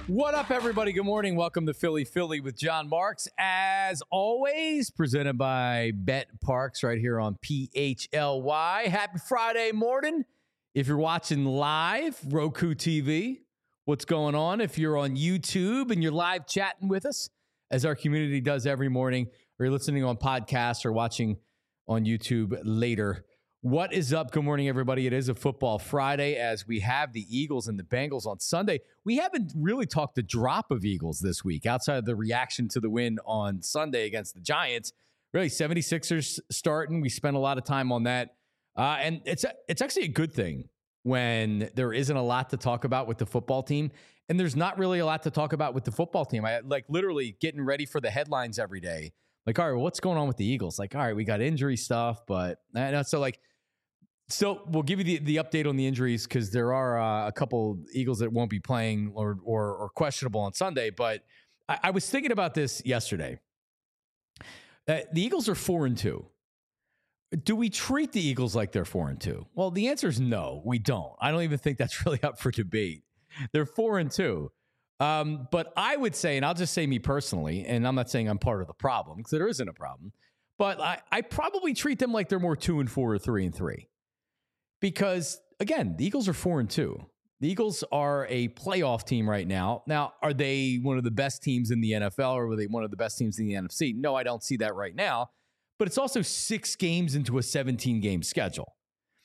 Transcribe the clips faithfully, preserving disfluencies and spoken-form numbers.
What up, everybody? Good morning. Welcome to Philly Philly with John Marks. As always, presented by Bet Parks right here on P H L Y. Happy Friday morning. If you're watching live, Roku T V, what's going on? If you're on YouTube and you're live chatting with us, as our community does every morning, or you're listening on podcasts or watching on YouTube later, what is up? Good morning, everybody. It is a football Friday as we have the Eagles and the Bengals on Sunday. We haven't really talked a drop of Eagles this week outside of the reaction to the win on Sunday against the Giants. Really, seventy-sixers starting. We spent a lot of time on that. Uh, and it's it's actually a good thing when there isn't a lot to talk about with the football team. And there's not really a lot to talk about with the football team. I like literally getting ready for the headlines every day. Like, all right, well, what's going on with the Eagles? Like, all right, we got injury stuff, but uh, so like, So we'll give you the, the update on the injuries because there are uh, a couple Eagles that won't be playing or or, or questionable on Sunday. But I, I was thinking about this yesterday. Uh, the Eagles are four and two. Do we treat the Eagles like they're four and two? Well, the answer is no, we don't. I don't even think that's really up for debate. They're four and two. Um, but I would say, and I'll just say me personally, and I'm not saying I'm part of the problem because there isn't a problem. But I, I probably treat them like they're more two and four or three and three. Because, again, the Eagles are four and two. The Eagles are a playoff team right now. Now, are they one of the best teams in the N F L or are they one of the best teams in the N F C? No, I don't see that right now. But it's also six games into a seventeen-game schedule.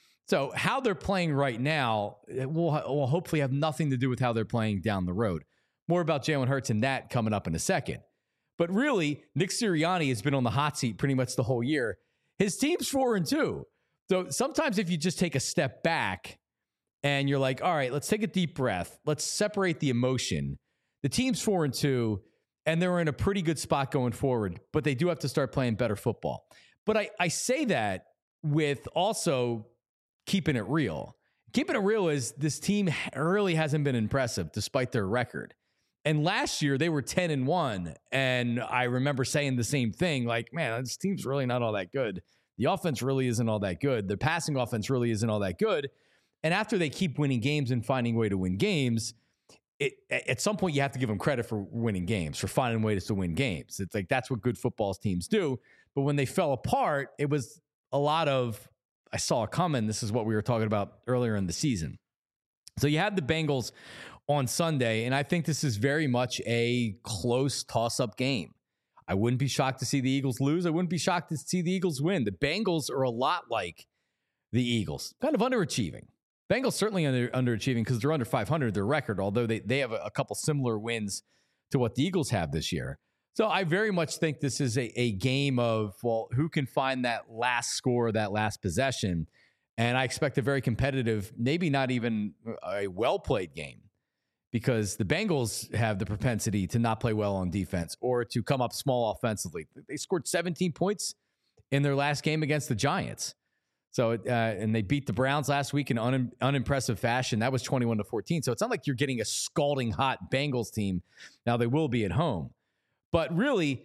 So how they're playing right now will, will hopefully have nothing to do with how they're playing down the road. More about Jalen Hurts and that coming up in a second. But really, Nick Sirianni has been on the hot seat pretty much the whole year. His team's four and two. So sometimes if you just take a step back and you're like, all right, let's take a deep breath. Let's separate the emotion. The team's four and two, and they're in a pretty good spot going forward, but they do have to start playing better football. But I, I say that with also keeping it real. Keeping it real is this team really hasn't been impressive despite their record. And last year they were ten and one. And I remember saying the same thing, like, man, this team's really not all that good. The offense really isn't all that good. The passing offense really isn't all that good. And after they keep winning games and finding a way to win games, it, at some point you have to give them credit for winning games, for finding ways to win games. It's like that's what good football teams do. But when they fell apart, it was a lot of, I saw a comment, this is what we were talking about earlier in the season. So you have the Bengals on Sunday, and I think this is very much a close toss-up game. I wouldn't be shocked to see the Eagles lose. I wouldn't be shocked to see the Eagles win. The Bengals are a lot like the Eagles, kind of underachieving. Bengals certainly under, underachieving because they're under five hundred, their record, although they, they have a, a couple similar wins to what the Eagles have this year. So I very much think this is a, a game of, well, who can find that last score, that last possession? And I expect a very competitive, maybe not even a well-played game. Because the Bengals have the propensity to not play well on defense or to come up small offensively. They scored seventeen points in their last game against the Giants. So, uh, and they beat the Browns last week in un- unimpressive fashion. That was twenty-one to fourteen. So it's not like you're getting a scalding hot Bengals team. Now they will be at home. But really,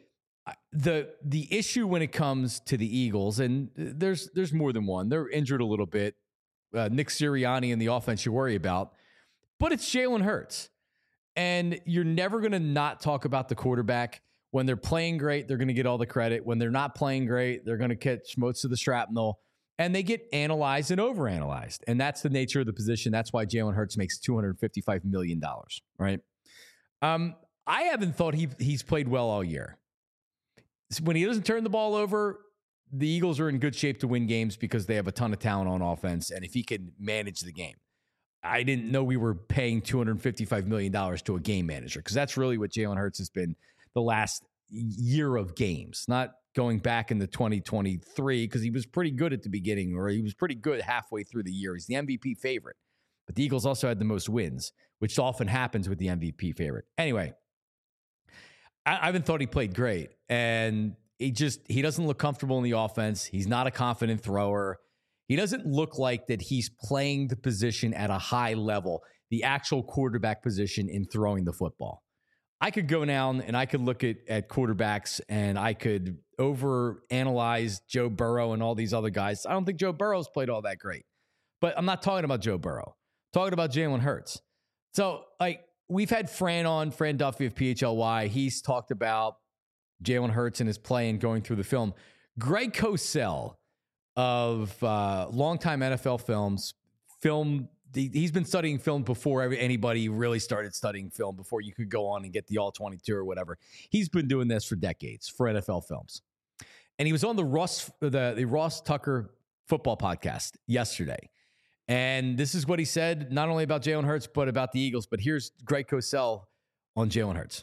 the the issue when it comes to the Eagles, and there's there's more than one. They're injured a little bit. Uh, Nick Sirianni and the offense you worry about. But it's Jalen Hurts. And you're never going to not talk about the quarterback. When they're playing great, they're going to get all the credit. When they're not playing great, they're going to catch most of the shrapnel. And they get analyzed and overanalyzed. And that's the nature of the position. That's why Jalen Hurts makes two hundred fifty-five million dollars, right? Um, I haven't thought he he's played well all year. When he doesn't turn the ball over, the Eagles are in good shape to win games because they have a ton of talent on offense. And if he can manage the game. I didn't know we were paying two hundred fifty-five million dollars to a game manager because that's really what Jalen Hurts has been the last year of games, not going back into twenty twenty-three because he was pretty good at the beginning or he was pretty good halfway through the year. He's the M V P favorite. But the Eagles also had the most wins, which often happens with the M V P favorite. Anyway, I, I haven't thought he played great. And he just, he doesn't look comfortable in the offense. He's not a confident thrower. He doesn't look like that he's playing the position at a high level, the actual quarterback position in throwing the football. I could go down and I could look at, at quarterbacks and I could overanalyze Joe Burrow and all these other guys. I don't think Joe Burrow's played all that great. But I'm not talking about Joe Burrow. I'm talking about Jalen Hurts. So, like, we've had Fran on, Fran Duffy of P H L Y. He's talked about Jalen Hurts and his play and going through the film. Greg Cosell of uh, longtime N F L films, film. He's been studying film before anybody really started studying film, before you could go on and get the all twenty-two or whatever. He's been doing this for decades for N F L films. And he was on the Ross, the, the Ross Tucker football podcast yesterday. And this is what he said, not only about Jalen Hurts, but about the Eagles. But here's Greg Cosell on Jalen Hurts.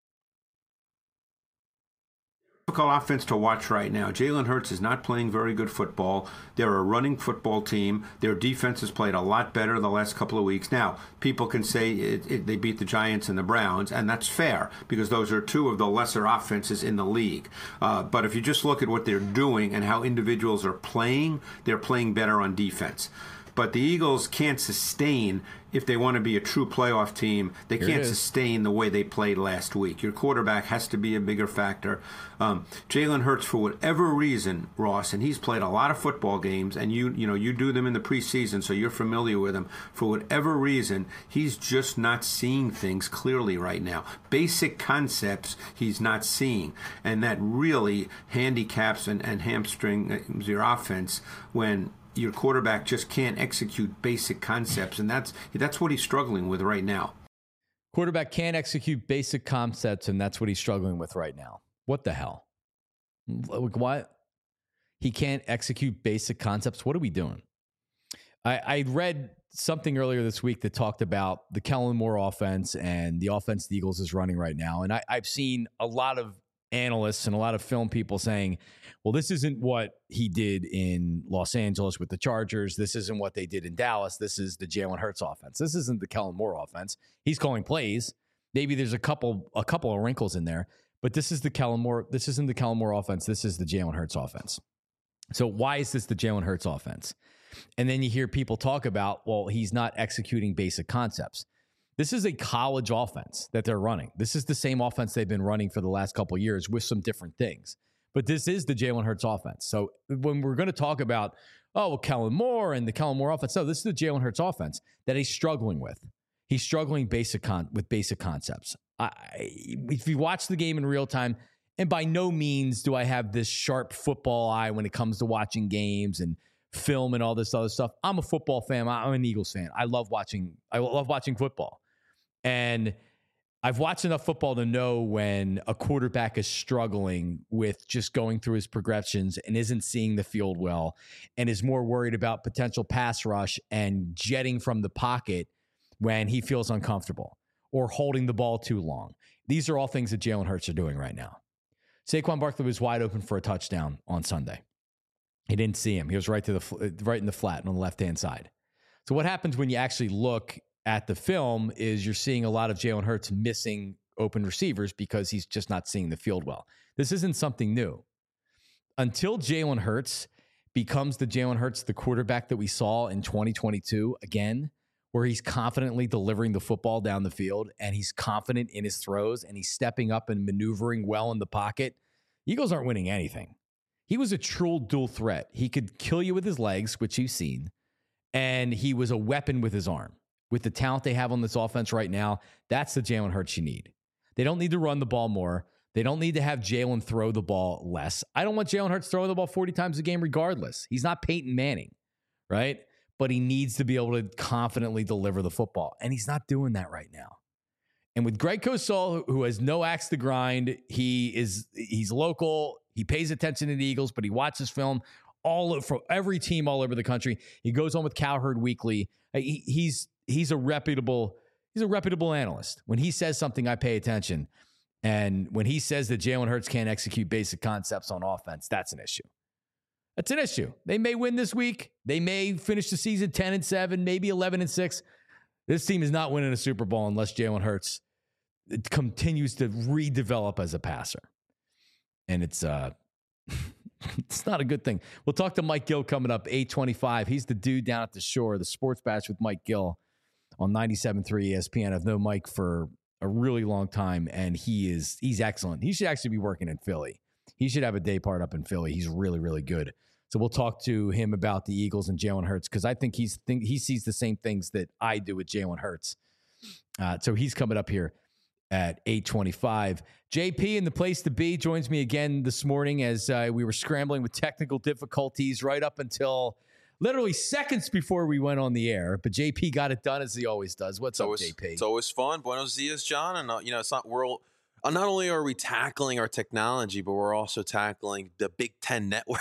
Difficult offense to watch right now. Jalen Hurts is not playing very good football. They're a running football team. Their defense has played a lot better the last couple of weeks. Now, people can say it, it, they beat the Giants and the Browns, and that's fair because those are two of the lesser offenses in the league. Uh, but if you just look at what they're doing and how individuals are playing, they're playing better on defense. But the Eagles can't sustain, if they want to be a true playoff team, they Here can't sustain the way they played last week. Your quarterback has to be a bigger factor. Um, Jalen Hurts, for whatever reason, Ross, and he's played a lot of football games, and you you know you do them in the preseason, so you're familiar with him. For whatever reason, he's just not seeing things clearly right now. Basic concepts he's not seeing, and that really handicaps and, and hamstrings your offense when your quarterback just can't execute basic concepts, and that's that's what he's struggling with right now. Quarterback can't execute basic concepts, and that's what he's struggling with right now. What the hell? What? He can't execute basic concepts? What are we doing? I, I read something earlier this week that talked about the Kellen Moore offense and the offense the Eagles is running right now, and I, I've seen a lot of analysts and a lot of film people saying, well, this isn't what he did in Los Angeles with the Chargers. This isn't what they did in Dallas. This is the Jalen Hurts offense. This isn't the Kellen Moore offense. He's calling plays. Maybe there's a couple a couple of wrinkles in there, but this is the Kellen Moore. This isn't the Kellen Moore offense. This is the Jalen Hurts offense. So why is this the Jalen Hurts offense? And then you hear people talk about, well, he's not executing basic concepts. This is a college offense that they're running. This is the same offense they've been running for the last couple of years with some different things. But this is the Jalen Hurts offense. So when we're going to talk about, oh, well, Kellen Moore and the Kellen Moore offense, no, this is the Jalen Hurts offense that he's struggling with. He's struggling basic con- with basic concepts. I, if you watch the game in real time, and by no means do I have this sharp football eye when it comes to watching games and film and all this other stuff. I'm a football fan. I'm an Eagles fan. I love watching. I love watching football. And I've watched enough football to know when a quarterback is struggling with just going through his progressions and isn't seeing the field well and is more worried about potential pass rush and jetting from the pocket when he feels uncomfortable or holding the ball too long. These are all things that Jalen Hurts are doing right now. Saquon Barkley was wide open for a touchdown on Sunday. He didn't see him. He was right to the right in the flat on the left-hand side. So what happens when you actually look at the film is you're seeing a lot of Jalen Hurts missing open receivers because he's just not seeing the field well. This isn't something new. Until Jalen Hurts becomes the Jalen Hurts, the quarterback that we saw in twenty twenty-two again, where he's confidently delivering the football down the field and he's confident in his throws and he's stepping up and maneuvering well in the pocket, Eagles aren't winning anything. He was a true dual threat. He could kill you with his legs, which you've seen, and he was a weapon with his arm. With the talent they have on this offense right now, that's the Jalen Hurts you need. They don't need to run the ball more. They don't need to have Jalen throw the ball less. I don't want Jalen Hurts throwing the ball forty times a game regardless. He's not Peyton Manning, right? But he needs to be able to confidently deliver the football, and he's not doing that right now. And with Greg Cosell, who has no axe to grind, he is he's local. He pays attention to the Eagles, but he watches film all from every team all over the country. He goes on with Cowherd Weekly. He, he's He's a reputable, he's a reputable analyst. When he says something, I pay attention. And when he says that Jalen Hurts can't execute basic concepts on offense, that's an issue. That's an issue. They may win this week. They may finish the season ten and seven, maybe eleven and six. This team is not winning a Super Bowl unless Jalen Hurts continues to redevelop as a passer. And it's uh, it's not a good thing. We'll talk to Mike Gill coming up, eight twenty-five. He's the dude down at the shore, the Sports Bash with Mike Gill on ninety-seven point three E S P N. I've known Mike for a really long time, and he is he's excellent. He should actually be working in Philly. He should have a day part up in Philly. He's really, really good. So we'll talk to him about the Eagles and Jalen Hurts because I think he's think he sees the same things that I do with Jalen Hurts. Uh, so he's coming up here at eight twenty-five. J P in the place to be joins me again this morning as uh, we were scrambling with technical difficulties right up until literally seconds before we went on the air. But J P got it done as he always does. What's it's up, always, J P? It's always fun. Buenos dias, John. And, uh, you know, it's not world. Uh, not only are we tackling our technology, but we're also tackling the Big Ten Network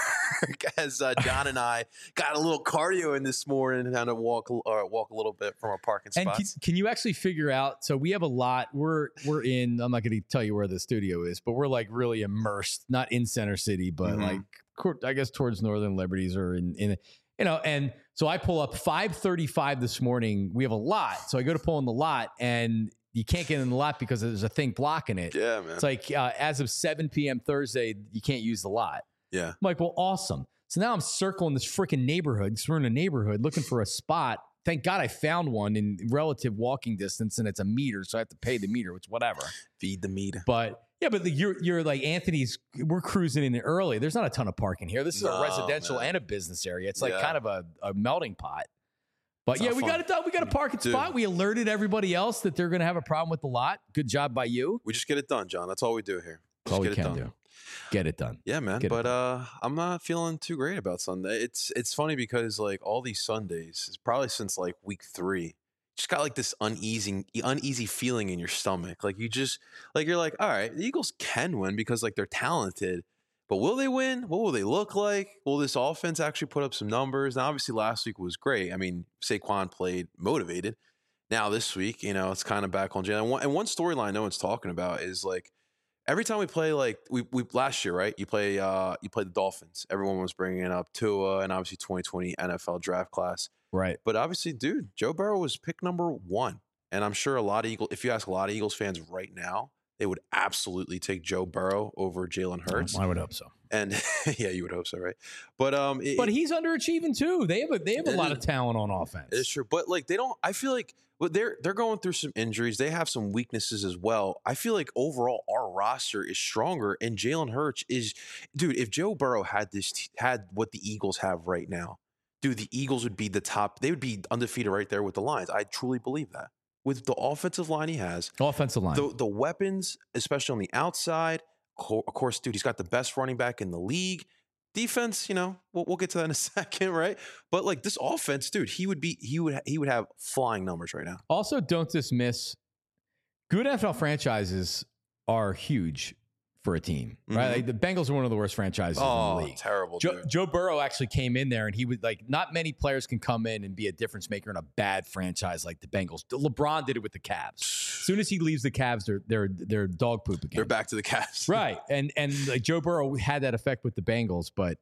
as uh, John and I got a little cardio in this morning and kind of walk uh, walk a little bit from our parking and spots. can, can you actually figure out? So we have a lot. We're we're in. I'm not going to tell you where the studio is, but we're like really immersed, not in Center City, but Mhm. like I guess towards Northern Liberties or in in you know. And so I pull up five thirty-five this morning. We have a lot, so I go to pull in the lot and. You can't get in the lot because there's a thing blocking it. Yeah, man. It's like uh, as of seven p.m. Thursday, you can't use the lot. Yeah. I'm like, well, awesome. So now I'm circling this freaking neighborhood because we're in a neighborhood looking for a spot. Thank God I found one in relative walking distance, and it's a meter, so I have to pay the meter, which whatever. Feed the meter. But yeah, but the, you're you're like Anthony's. We're cruising in early. There's not a ton of parking here. This is No, a residential man. and a business area. It's like Yeah. kind of a, a melting pot. But It's yeah, not we fun. got it done. We got a parking Dude. spot. We alerted everybody else that they're going to have a problem with the lot. Good job by you. We just get it done, John. That's all we do here. That's all Just we get it can done. do. Get it done. Yeah, man. Get it But done. uh, I'm not feeling too great about Sunday. It's it's funny because like all these Sundays, it's probably since like week three, just got like this uneasy uneasy feeling in your stomach. Like you just like you're like, all right, the Eagles can win because like they're talented. But will they win? What will they look like? Will this offense actually put up some numbers? Now, obviously, last week was great. I mean, Saquon played motivated. Now, this week, you know, it's kind of back on Jalen. And one, and one storyline no one's talking about is like every time we play, like we we last year, right? You play uh you play the Dolphins. Everyone was bringing up Tua and obviously twenty twenty N F L draft class. Right. But obviously, dude, Joe Burrow was pick number one, and I'm sure a lot of Eagles. If you ask a lot of Eagles fans right now, they would absolutely take Joe Burrow over Jalen Hurts. I would hope so. And yeah, you would hope so, right? But um, it, But he's underachieving too. They have a they have a It lot is- of talent on offense. it's true. But like they don't. I feel like well, they're they're going through some injuries. They have some weaknesses as well. I feel like overall our roster is stronger, and Jalen Hurts is, dude. If Joe Burrow had this t- had what the Eagles have right now, dude, the Eagles would be the top. They would be undefeated right there with the Lions. I truly believe that with the offensive line he has. Offensive line. The the weapons, especially on the outside, co- of course, dude, he's got the best running back in the league. Defense, you know, we'll, we'll get to that in a second, right? But like this offense, dude, he would be he would he would have flying numbers right now. Also, don't dismiss good N F L franchises are huge for a team, right? Mhm. Like the Bengals are one of the worst franchises in Oh, the league. terrible, Joe, dude. Joe Burrow actually came in there and he was like, not many players can come in and be a difference maker in a bad franchise like the Bengals. LeBron did it with the Cavs. As soon as he leaves the Cavs, they're they're they're dog poop again. They're back to the Cavs. Right. And and like Joe Burrow had that effect with the Bengals, but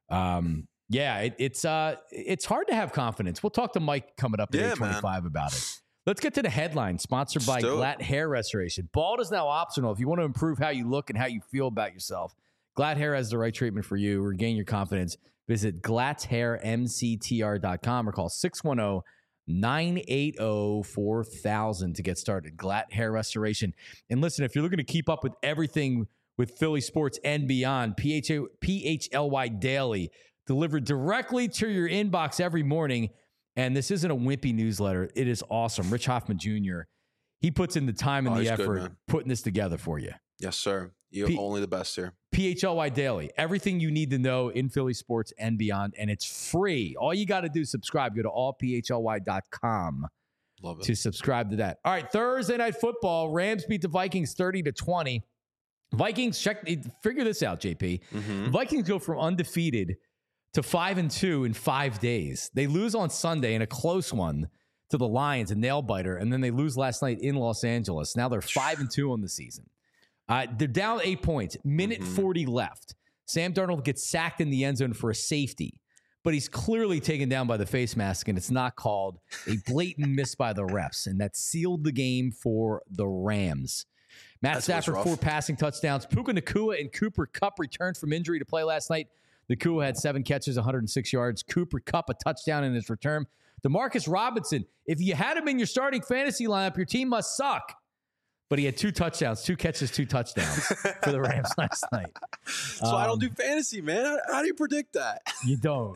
um yeah, it, it's uh it's hard to have confidence. We'll talk to Mike coming up at Yeah, eight twenty-five about it. Let's get to the headline, sponsored by Let's do it. Glatt Hair Restoration. Bald is now optional. If you want to improve how you look and how you feel about yourself, Glatt Hair has the right treatment for you. Regain your confidence. Visit glatt hair m c t r dot com or call six one zero, nine eight zero, four thousand to get started. Glatt Hair Restoration. And listen, if you're looking to keep up with everything with Philly sports and beyond, P H A, P H L Y Daily, delivered directly to your inbox every morning. And this isn't a wimpy newsletter. It is awesome. Rich Hoffman Junior, he puts in the time and Oh, the he's good, effort man. putting this together for you. Yes, sir. You're P- only the best here. P H L Y Daily. Everything you need to know in Philly sports and beyond. And it's free. All you got to do is subscribe. Go to all p h l y dot com Love it. to subscribe to that. All right, Thursday Night Football. Rams beat the Vikings thirty to twenty. Vikings, check, figure this out, J P. Mhm. The Vikings go from undefeated to five and two in five days. They lose on Sunday in a close one to the Lions, a nail biter, and then they lose last night in Los Angeles. Now they're five and two on the season. Uh, they're down eight points. Minute Mhm. forty left. Sam Darnold gets sacked in the end zone for a safety, but he's clearly taken down by the face mask, and it's not called. A blatant miss by the refs, and that sealed the game for the Rams. Matt That's what's Stafford, rough. four passing touchdowns. Puka Nacua and Cooper Kupp returned from injury to play last night. Nacua had seven catches, one hundred six yards. Cooper Kupp, a touchdown in his return. DeMarcus Robinson, if you had him in your starting fantasy lineup, your team must suck. But he had two touchdowns, two catches, two touchdowns for the Rams last night. So I don't Um, do fantasy, man. How, how do you predict that? You don't.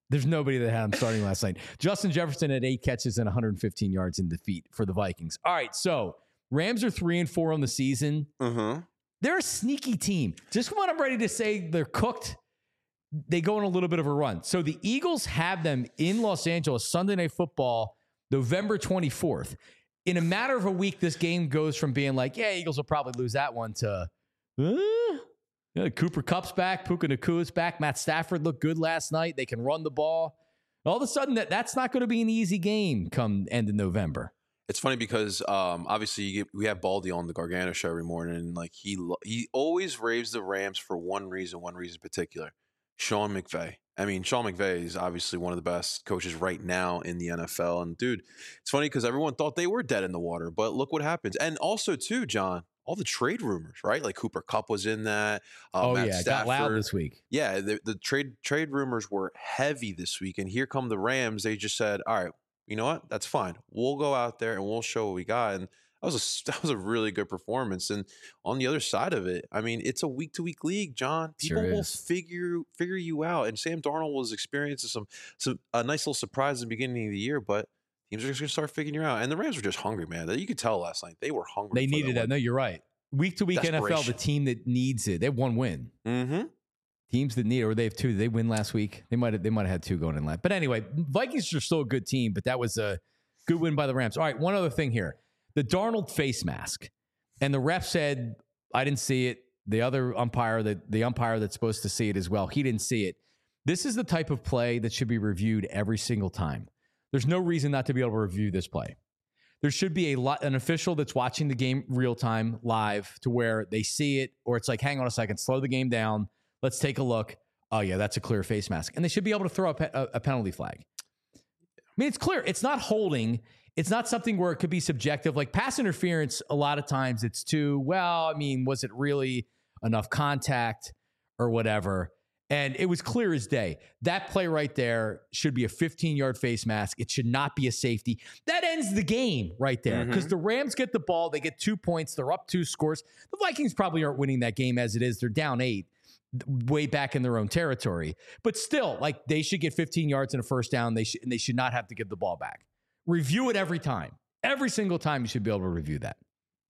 There's nobody that had him starting last night. Justin Jefferson had eight catches and one hundred fifteen yards in defeat for the Vikings. All right, so Rams are three and four on the season. Uh-huh. They're a sneaky team. Just when I'm ready to say they're cooked, they go on a little bit of a run. So the Eagles have them in Los Angeles, Sunday Night Football, November twenty-fourth. In a matter of a week, this game goes from being like, yeah, Eagles will probably lose that one to, uh, yeah, Cooper Kupp's back, Puka Nakua's back, Matt Stafford looked good last night. They can run the ball. All of a sudden, that, that's not going to be an easy game come end of November. It's funny because um, obviously you get, we have Baldy on the Gargano show every morning, and like he lo- he always raves the Rams for one reason, one reason in particular. Sean McVay. I mean, Sean McVay is obviously one of the best coaches right now in the N F L. And dude, it's funny because everyone thought they were dead in the water, but look what happens. And also too, John, all the trade rumors, right? Like Cooper Kupp was in that. Uh, oh Matt yeah, it Stafford. got loud this week. Yeah, the, the trade trade rumors were heavy this week, and here come the Rams. They just said, "All right, you know what? That's fine. We'll go out there and we'll show what we got." And that was a that was a really good performance. And on the other side of it, I mean, it's a week to week league, John. People Sure will is. figure figure you out. And Sam Darnold was experiencing some some a nice little surprise at the beginning of the year, but teams are just going to start figuring you out. And the Rams were just hungry, man. You could tell last night they were hungry. They for needed that. that. No, you're right. Week to week N F L, the Desperation. team that needs it. They have one win. Mm-hmm. Teams that need it, or they have two. Did they win last week? They might have. They might have had two going in last. But anyway, Vikings are still a good team. But that was a good win by the Rams. All right, one other thing here: the Darnold face mask, and the ref said, "I didn't see it." The other umpire, that the umpire that's supposed to see it as well, he didn't see it. This is the type of play that should be reviewed every single time. There's no reason not to be able to review this play. There should be a lot, an official that's watching the game real time, live, to where they see it, or it's like, hang on a second, slow the game down. Let's take a look. Oh, yeah, that's a clear face mask. And they should be able to throw a, pe- a, a penalty flag. I mean, it's clear. It's not holding. It's not something where it could be subjective. Like pass interference, a lot of times it's too, well, I mean, was it really enough contact or whatever? And it was clear as day. That play right there should be a fifteen-yard face mask. It should not be a safety. That ends the game right there because Mhm. the Rams get the ball. They get two points. They're up two scores. The Vikings probably aren't winning that game as it is. They're down eight, way back in their own territory. But still, like they should get fifteen yards and a first down. They should, and they should not have to give the ball back. Review it every time. Every single time you should be able to review that.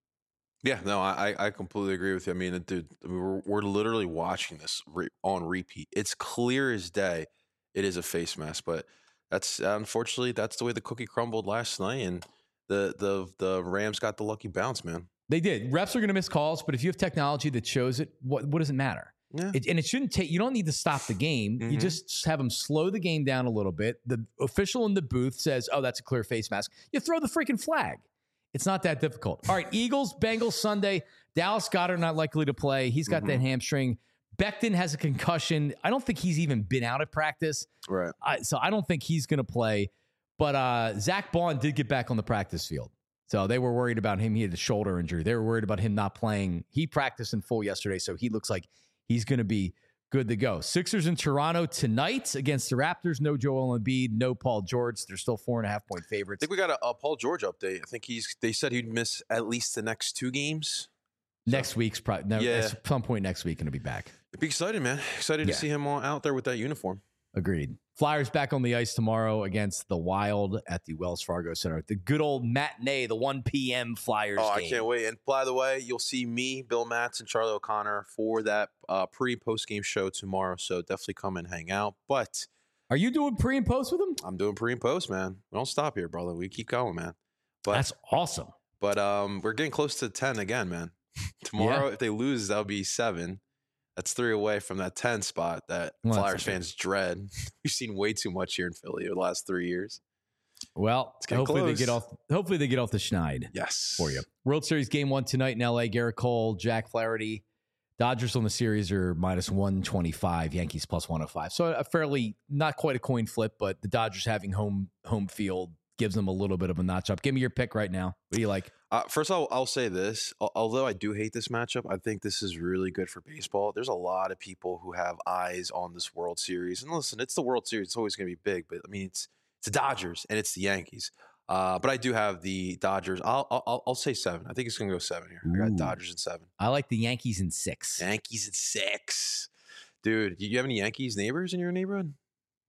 Yeah, no, I I completely agree with you. I mean, dude, I mean, we're we're literally watching this re- on repeat. It's clear as day. It is a face mask, but that's unfortunately that's the way the cookie crumbled last night, and the the the Rams got the lucky bounce, man. They did. Refs are going to miss calls, but if you have technology that shows it, what what does it matter? Yeah, It, and it shouldn't take, you don't need to stop the game. You Mhm. just have them slow the game down a little bit. The official in the booth says, oh, that's a clear face mask. You throw the freaking flag. It's not that difficult. All right, Eagles, Bengals Sunday. Dallas Goedert not likely to play. He's got that hamstring. Becton has a concussion. I don't think he's even been out at practice. right. I, so I don't think he's going to play. But uh, Zach Bond did get back on the practice field. So they were worried about him. He had a shoulder injury. They were worried about him not playing. He practiced in full yesterday, so he looks like he's going to be good to go. Sixers in Toronto tonight against the Raptors. No Joel Embiid, no Paul George. They're still four and a half point I favorites. think we got a, a Paul George update. I think he's. They said he'd miss at least the next two games. Next week's probably no, Yeah. at some point next week going to be back. It'd be exciting, man. Excited Yeah. to see him all out there with that uniform. Agreed. Flyers back on the ice tomorrow against the Wild at the Wells Fargo Center. The good old matinee, the one p.m. Flyers Oh, game. I can't wait. And by the way, you'll see me, Bill Matz, and Charlie O'Connor for that uh, pre post game show tomorrow. So definitely come and hang out. But Are you doing pre and post with them? I'm doing pre and post, man. We don't stop here, brother. We keep going, man. But That's awesome. but um, we're getting close to ten again, man. Tomorrow, if they lose, that'll be seven. That's three away from that ten spot that Well, that's Flyers okay. fans dread. We've seen way too much here in Philly over the last three years. Well, getting hopefully close. they get off. Hopefully they get off the schneid Yes. for you. World Series game one tonight in L A. Garrett Cole, Jack Flaherty. Dodgers on the series are minus one twenty-five. Yankees plus one oh five. So a fairly not quite a coin flip, but the Dodgers having home home field gives them a little bit of a notch up. Give me your pick right now. What do you like? Uh, first, I'll, I'll say this. Al- Although I do hate this matchup, I think this is really good for baseball. There's a lot of people who have eyes on this World Series. And listen, it's the World Series. It's always going to be big. But, I mean, it's it's the Dodgers and it's the Yankees. Uh, but I do have the Dodgers. I'll I'll, I'll say seven. I think it's going to go seven here. I got Ooh. Dodgers in seven. I like the Yankees in six. Yankees at six. Dude, you you have any Yankees neighbors in your neighborhood?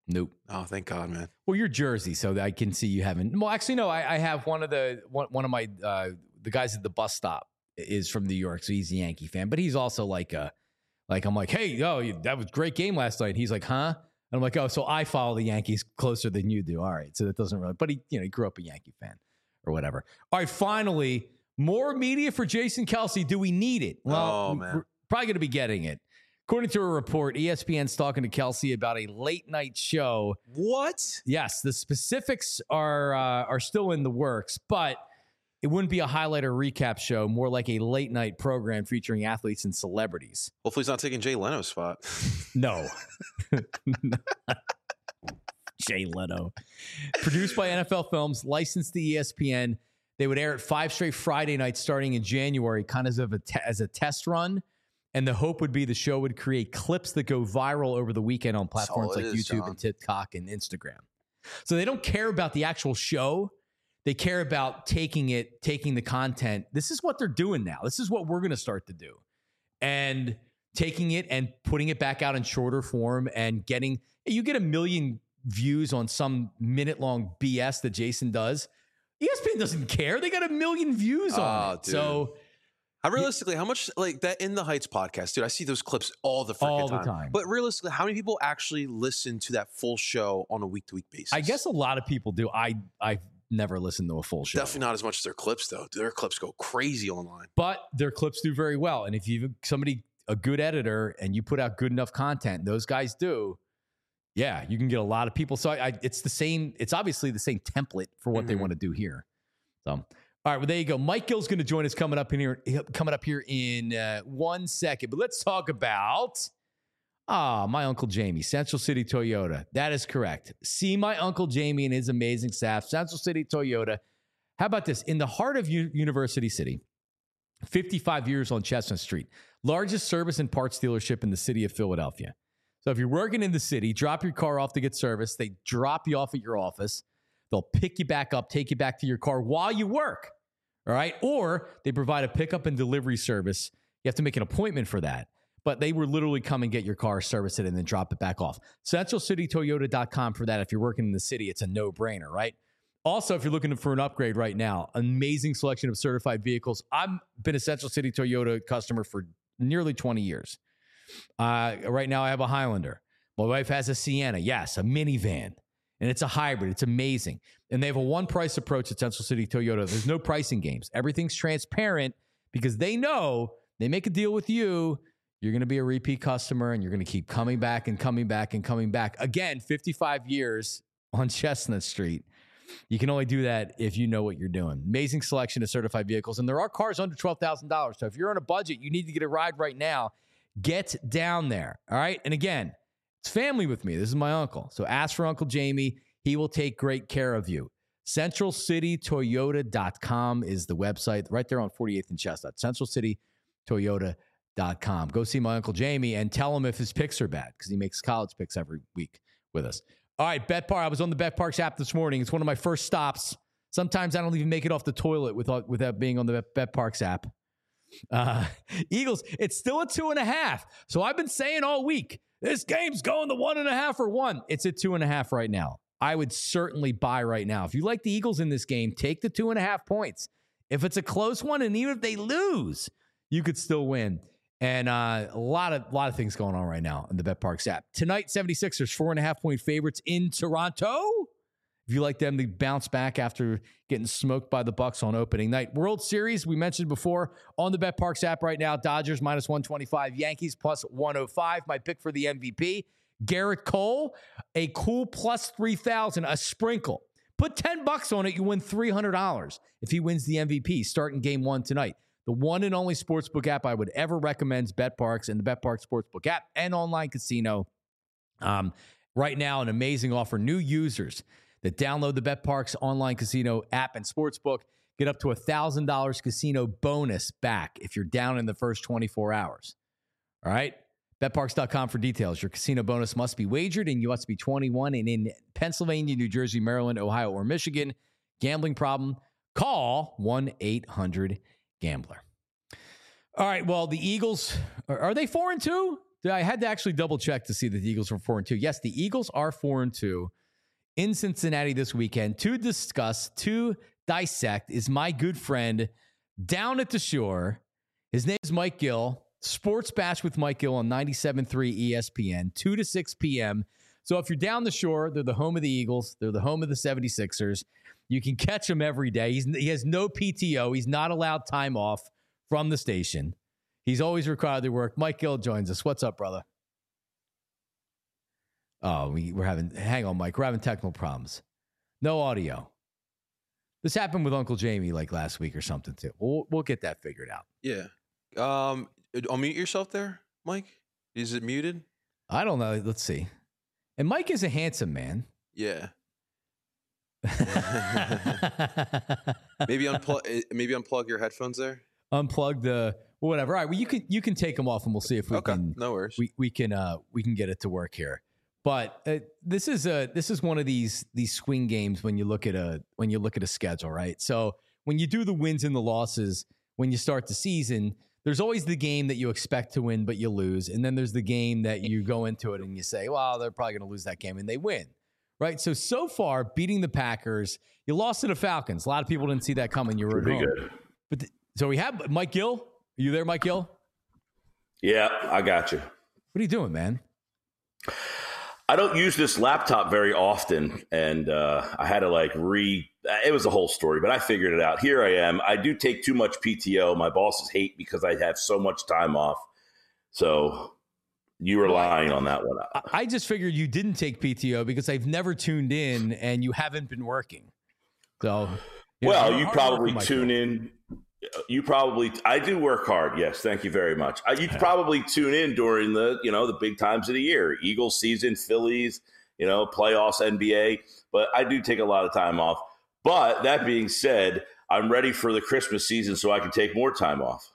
Nope. Oh, thank God, man. Well, you're Jersey, so I can see you haven't. Well, actually, no. I, I have one of the one, one of my uh, the guys at the bus stop is from New York, so he's a Yankee fan. But he's also like a like I'm like, hey, yo, that was a great game last night. And he's like, huh? And I'm like, oh, so I follow the Yankees closer than you do. All right, so that doesn't really. But he, you know, he grew up a Yankee fan or whatever. All right, finally, more media for Jason Kelce. Do we need it? Well, oh, man. we're probably going to be getting it. According to a report, E S P N's talking to Kelce about a late night show. What? Yes, the specifics are uh, are still in the works, but it wouldn't be a highlight or recap show, more like a late night program featuring athletes and celebrities. Hopefully he's not taking Jay Leno's spot. No. Jay Leno. Produced by N F L Films, licensed to E S P N. They would air it five straight Friday nights starting in January, kind of as a, te- as a test run. And the hope would be the show would create clips that go viral over the weekend on platforms like is, YouTube John. and TikTok and Instagram. So they don't care about the actual show. They care about taking it, taking the content. This is what they're doing now. This is what we're going to start to do. And taking it and putting it back out in shorter form and getting, you get a million views on some minute long B S that Jason does. E S P N doesn't care. They got a million views on Oh, it. dude. So How realistically, how much like that In the Heights podcast, dude? I see those clips all the freaking All the time. time. But realistically, how many people actually listen to that full show on a week to week basis? I guess a lot of people do. I I've never listened to a full show. Definitely not as much as their clips, though. Their clips go crazy online. But their clips do very well. And if you've somebody a good editor and you put out good enough content, those guys do. Yeah, you can get a lot of people. So I, I it's the same. It's obviously the same template for what Mhm. they want to do here. So, all right, well there you go. Mike Gill's going to join us coming up in here, coming up here in uh, one second. But let's talk about ah, my Uncle Jamie, Central City Toyota. That is correct. See my Uncle Jamie and his amazing staff, Central City Toyota. How about this? In the heart of U- University City, fifty-five years on Chestnut Street, largest service and parts dealership in the city of Philadelphia. So if you're working in the city, drop your car off to get service. They drop you off at your office. They'll pick you back up, take you back to your car while you work. All right. Or they provide a pickup and delivery service. You have to make an appointment for that. But they will literally come and get your car, service it, and then drop it back off. Central City Toyota dot com for that. If you're working in the city, it's a no-brainer, right? Also, if you're looking for an upgrade right now, amazing selection of certified vehicles. I've been a Central City Toyota customer for nearly twenty years. Uh, right now, I have a Highlander. My wife has a Sienna. Yes, a minivan. And it's a hybrid. It's amazing. And they have a one-price approach at Central City Toyota. There's no pricing games. Everything's transparent because they know they make a deal with you. You're going to be a repeat customer, and you're going to keep coming back and coming back and coming back. Again, fifty-five years on Chestnut Street. You can only do that if you know what you're doing. Amazing selection of certified vehicles. And there are cars under twelve thousand dollars. So if you're on a budget, you need to get a ride right now. Get down there. All right. And again, it's family with me. This is my uncle. So ask for Uncle Jamie. He will take great care of you. Central City Toyota dot com is the website right there on forty-eighth and Chestnut. Central City Toyota dot com. Go see my Uncle Jamie and tell him if his picks are bad because he makes college picks every week with us. All right, Bet Park. I was on the Bet Parks app this morning. It's one of my first stops. Sometimes I don't even make it off the toilet without, without being on the Bet Parks app. Uh, Eagles, it's still a two and a half. So I've been saying all week, this game's going to one and a half or one. It's at two and a half right now. I would certainly buy right now. If you like the Eagles in this game, take the two and a half points. If it's a close one, and even if they lose, you could still win. And uh, a lot of lot of things going on right now in the Bet Parks app. Tonight, seventy-sixers, four and a half point favorites in Toronto. If you like them to bounce back after getting smoked by the Bucks on opening night. World Series, we mentioned before, on the Bet Parks app right now. Dodgers minus one twenty-five, Yankees plus one oh five. My pick for the M V P, Garrett Cole, a cool plus three thousand, a sprinkle. Put ten bucks on it, you win three hundred dollars if he wins the M V P starting game one tonight. The one and only sportsbook app I would ever recommend is Bet Parks and the Bet Parks Sportsbook app and online casino. Um, right now, an amazing offer. New users that download the Bet Parks online casino app and sportsbook get up to a one thousand dollars casino bonus back if you're down in the first twenty-four hours. All right? Bet Parks dot com for details. Your casino bonus must be wagered, and you must be twenty-one and in Pennsylvania, New Jersey, Maryland, Ohio, or Michigan. Gambling problem? Call one eight hundred gambler. All right, well, the Eagles, are, are they four and two? I had to actually double check to see that the Eagles were four and two. Yes, the Eagles are four and two in Cincinnati this weekend. To discuss, to dissect, is my good friend down at the shore. His name is Mike Gill. Sports Bash with Mike Gill on ninety-seven point three E S P N, two to six p.m. So if you're down the shore, they're the home of the Eagles. They're the home of the seventy-sixers. You can catch him every day. He's, he has no P T O. He's not allowed time off from the station. He's always required to work. Mike Gill joins us. What's up, brother? Oh, we, we're having, hang on, Mike. We're having technical problems. No audio. This happened with Uncle Jamie like last week or something too. We'll, we'll get that figured out. Yeah. Um, unmute yourself there, Mike. Is it muted? I don't know. Let's see. And Mike is a handsome man. Yeah. maybe unplug. Maybe unplug your headphones there. Unplug the whatever. All right. Well, you can you can take them off, and we'll see if we okay, can. No worries. We we can uh we can get it to work here. But uh, this is a this is one of these these swing games when you look at a when you look at a schedule, right? So when you do the wins and the losses, when you start the season, there's always the game that you expect to win, but you lose. And then there's the game that you go into it and you say, well, they're probably going to lose that game, and they win, right? So, so far, beating the Packers, you lost to the Falcons. A lot of people didn't see that coming. You were at home. Good. But the, so we have Mike Gill. Are you there, Mike Gill? Yeah, I got you. What are you doing, man? I don't use this laptop very often, and uh, I had to like re – it was a whole story, but I figured it out. Here I am. I do take too much P T O. My bosses hate because I have so much time off. So you were lying on that one. I just figured you didn't take P T O because I've never tuned in and you haven't been working. So you Well, know, you probably tune in – You probably, I do work hard. Yes. Thank you very much. You yeah. probably tune in during the, you know, the big times of the year, Eagles season, Phillies, you know, playoffs, N B A, but I do take a lot of time off. But that being said, I'm ready for the Christmas season so I can take more time off.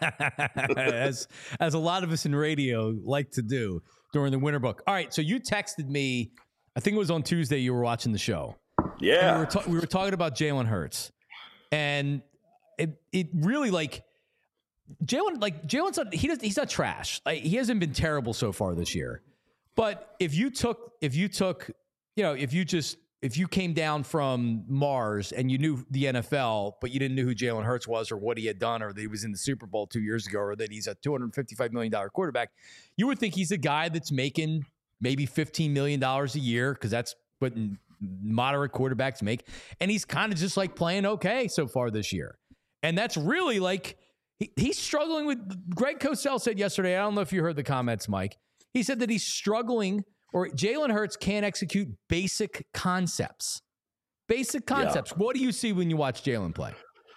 as, as a lot of us in radio like to do during the winter book. All right. So you texted me, I think it was on Tuesday, you were watching the show. Yeah. We were, ta- we were talking about Jalen Hurts, and It it really like Jalen like Jalen's not, he does he's not trash. Like, he hasn't been terrible so far this year. But if you took if you took you know if you just if you came down from Mars and you knew the N F L, but you didn't know who Jalen Hurts was or what he had done or that he was in the Super Bowl two years ago or that he's a two hundred fifty-five million dollars quarterback, you would think he's a guy that's making maybe fifteen million dollars a year because that's what moderate quarterbacks make. And he's kind of just like playing okay so far this year. And that's really like, he, he's struggling with, Greg Cosell said yesterday, I don't know if you heard the comments, Mike. He said that he's struggling, or Jalen Hurts can't execute basic concepts. Basic concepts. Yeah. What do you see when you watch Jalen play?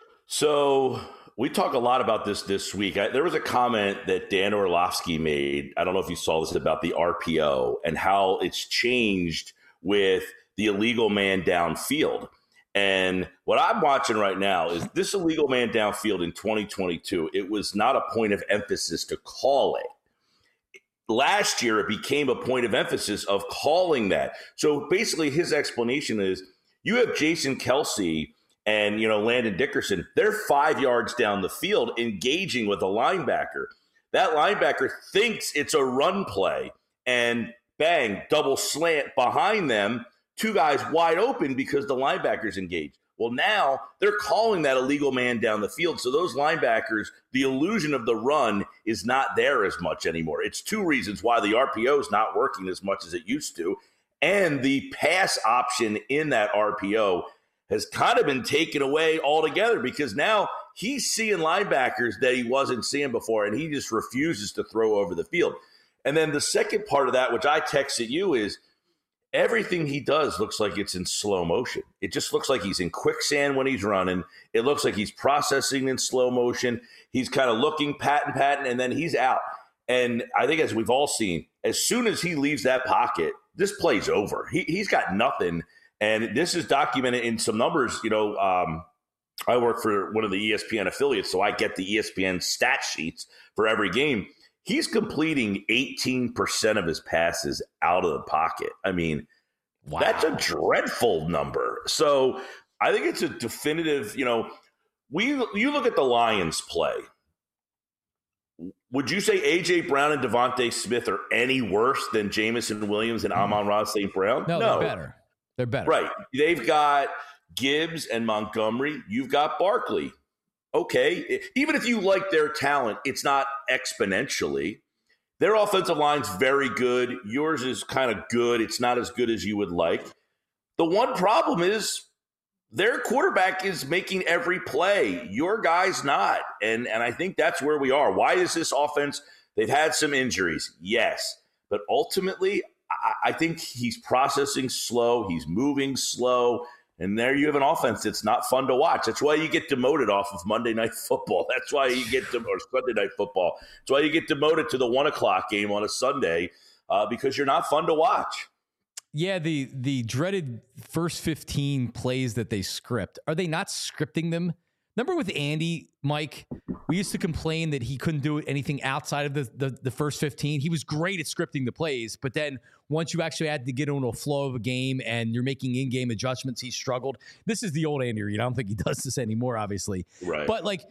So we talk a lot about this this week. I, there was a comment that Dan Orlovsky made. I don't know if you saw this, about the R P O and how it's changed with the illegal man downfield. And what I'm watching right now is this illegal man downfield in twenty twenty-two. It was not a point of emphasis to call it. Last year, it became a point of emphasis of calling that. So basically, his explanation is you have Jason Kelce and, you know, Landon Dickerson. They're five yards down the field engaging with a linebacker. That linebacker thinks it's a run play, and bang, double slant behind them. Two guys wide open because the linebacker's engaged. Well, now they're calling that illegal man down the field. So those linebackers, the illusion of the run is not there as much anymore. It's two reasons why the R P O is not working as much as it used to. And the pass option in that R P O has kind of been taken away altogether because now he's seeing linebackers that he wasn't seeing before, and he just refuses to throw over the field. And then the second part of that, which I texted you, is everything he does looks like it's in slow motion. It just looks like he's in quicksand when he's running. It looks like he's processing in slow motion. He's kind of looking, patting, patting, and then he's out. And I think, as we've all seen, as soon as he leaves that pocket, this play's over. He, he's got nothing. And this is documented in some numbers. You know, um, I work for one of the E S P N affiliates, so I get the E S P N stat sheets for every game. He's completing eighteen percent of his passes out of the pocket. I mean, wow. That's a dreadful number. So I think it's a definitive, you know, we you look at the Lions play. would you say A J. Brown and Devontae Smith are any worse than Jameson Williams and Amon-Ra Saint Brown? No, no, they're better. They're better. Right. They've got Gibbs and Montgomery. You've got Barkley. Okay. Even if you like their talent, it's not exponentially. Their offensive line's very good. Yours is kind of good. It's not as good as you would like. The one problem is their quarterback is making every play. Your guy's not. And, and I think that's where we are. Why is this offense? They've had some injuries. Yes. But ultimately, I, I think he's processing slow. He's moving slow. And there you have an offense that's not fun to watch. That's why you get demoted off of Monday Night Football. That's why you get to, or Sunday Night Football. That's why you get demoted to the one o'clock game on a Sunday uh, because you're not fun to watch. Yeah, the the dreaded first fifteen plays that they script. Are they not scripting them? Remember with Andy, Mike, we used to complain that he couldn't do anything outside of the, the, the first fifteen. He was great at scripting the plays, but then once you actually had to get into a flow of a game and you're making in-game adjustments, he struggled. This is the old Andy Reid. I don't think he does this anymore, obviously. Right. But, like,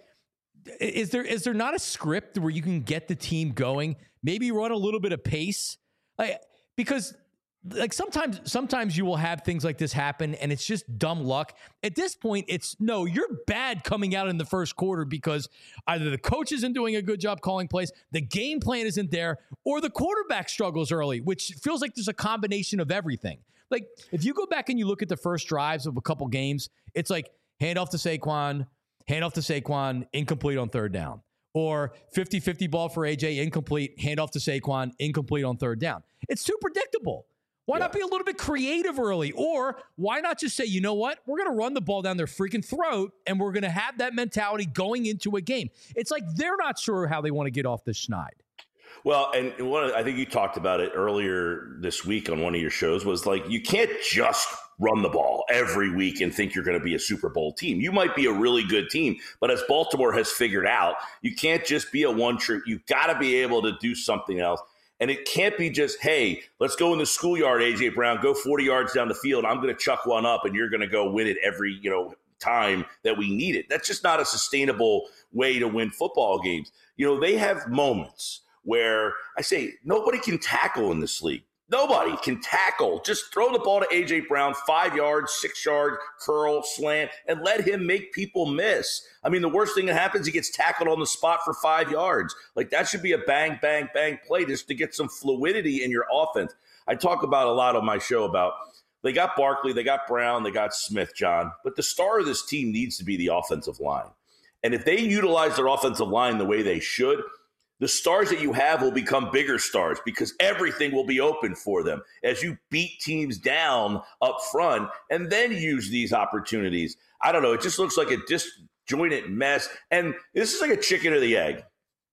is there is there not a script where you can get the team going, maybe run a little bit of pace? Like, because – Like sometimes, sometimes you will have things like this happen and it's just dumb luck. At this point, it's no, you're bad coming out in the first quarter because either the coach isn't doing a good job calling plays, the game plan isn't there, or the quarterback struggles early, which feels like there's a combination of everything. Like if you go back and you look at the first drives of a couple games, it's like hand off to Saquon, hand off to Saquon, incomplete on third down. Or fifty-fifty ball for A J, incomplete, hand off to Saquon, incomplete on third down. It's too predictable. Why yeah. not be a little bit creative early? Or why not just say, you know what? We're going to run the ball down their freaking throat, and we're going to have that mentality going into a game. It's like they're not sure how they want to get off the schneid. Well, and one, I think you talked about it earlier this week on one of your shows, was like you can't just run the ball every week and think you're going to be a Super Bowl team. You might be a really good team, but as Baltimore has figured out, you can't just be a one-trick. You've got to be able to do something else. And it can't be just, hey, let's go in the schoolyard, A J. Brown, go forty yards down the field. I'm going to chuck one up, and you're going to go win it every, you know, time that we need it. That's just not a sustainable way to win football games. You know, they have moments where I say nobody can tackle in this league. Nobody can tackle. Just throw the ball to A J. Brown, five yards, six yard, curl, slant, and let him make people miss. I mean, the worst thing that happens, he gets tackled on the spot for five yards. Like, that should be a bang, bang, bang play just to get some fluidity in your offense. I talk about a lot on my show about they got Barkley, they got Brown, they got Smith, John. But the star of this team needs to be the offensive line. And if they utilize their offensive line the way they should, the stars that you have will become bigger stars because everything will be open for them as you beat teams down up front and then use these opportunities. I don't know. It just looks like a disjointed mess. And this is like a chicken or the egg.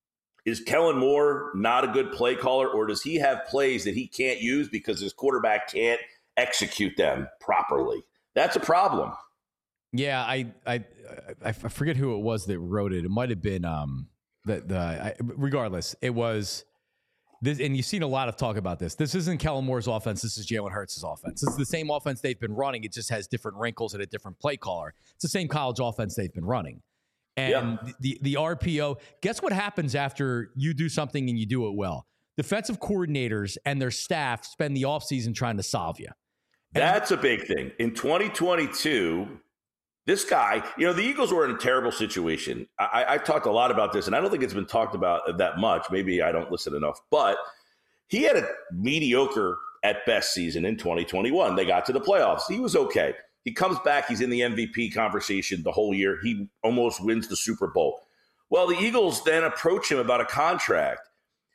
Is Kellen Moore not a good play caller, or does he have plays that he can't use because his quarterback can't execute them properly? That's a problem. Yeah, I I I forget who it was that wrote it. It might have been um The, the I, regardless, it was this, and you've seen a lot of talk about this. This isn't Kellen Moore's offense. This is Jalen Hurts' offense. This is the same offense they've been running. It just has different wrinkles and a different play caller. It's the same college offense they've been running. And yeah. the, the R P O, guess what happens after you do something and you do it well? Defensive coordinators and their staff spend the offseason trying to solve you. And that's a big thing. In twenty twenty-two, this guy, you know, the Eagles were in a terrible situation. I, I've talked a lot about this, and I don't think it's been talked about that much. Maybe I don't listen enough. But he had a mediocre at best season in twenty twenty-one. They got to the playoffs. He was okay. He comes back. He's in the M V P conversation the whole year. He almost wins the Super Bowl. Well, the Eagles then approach him about a contract.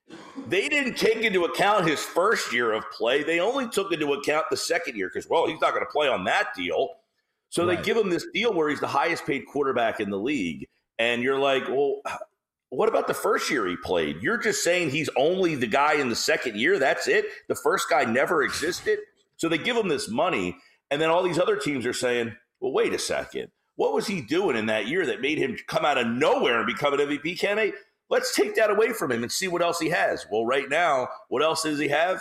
They didn't take into account his first year of play. They only took into account the second year because, well, he's not going to play on that deal. So right. They give him this deal where he's the highest paid quarterback in the league. And you're like, well, what about the first year he played? You're just saying he's only the guy in the second year. That's it. The first guy never existed. So they give him this money. And then all these other teams are saying, well, wait a second. What was he doing in that year that made him come out of nowhere and become an M V P candidate? Let's take that away from him and see what else he has. Well, right now, what else does he have?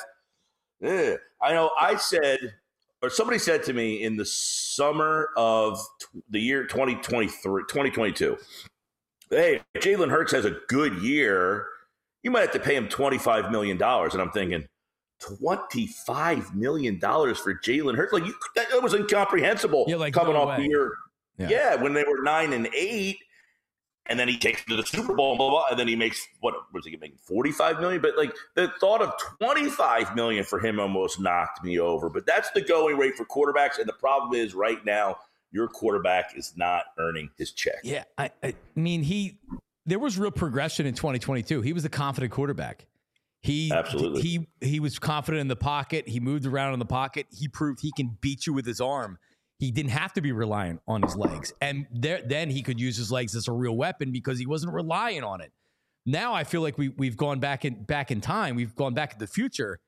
Eh. I know I said – or somebody said to me in the summer of the year twenty twenty-three, twenty twenty-two, hey, if Jalen Hurts has a good year, you might have to pay him twenty-five million dollars. And I'm thinking, twenty-five million dollars for Jalen Hurts? Like, you, that was incomprehensible yeah, like, coming no off way. the year. Yeah. yeah, when they were nine and eight. And then he takes it to the Super Bowl, blah, blah, and then he makes, what was he making, forty-five million dollars? But, like, the thought of twenty-five million dollars for him almost knocked me over. But that's the going rate for quarterbacks. And the problem is right now, your quarterback is not earning his check. Yeah, I, I mean, he there was real progression in twenty twenty-two. He was a confident quarterback. He Absolutely. He, he was confident in the pocket. He moved around in the pocket. He proved he can beat you with his arm. He didn't have to be reliant on his legs. And there, then he could use his legs as a real weapon because he wasn't relying on it. Now I feel like we, we've gone back in back in time. We've gone back in the future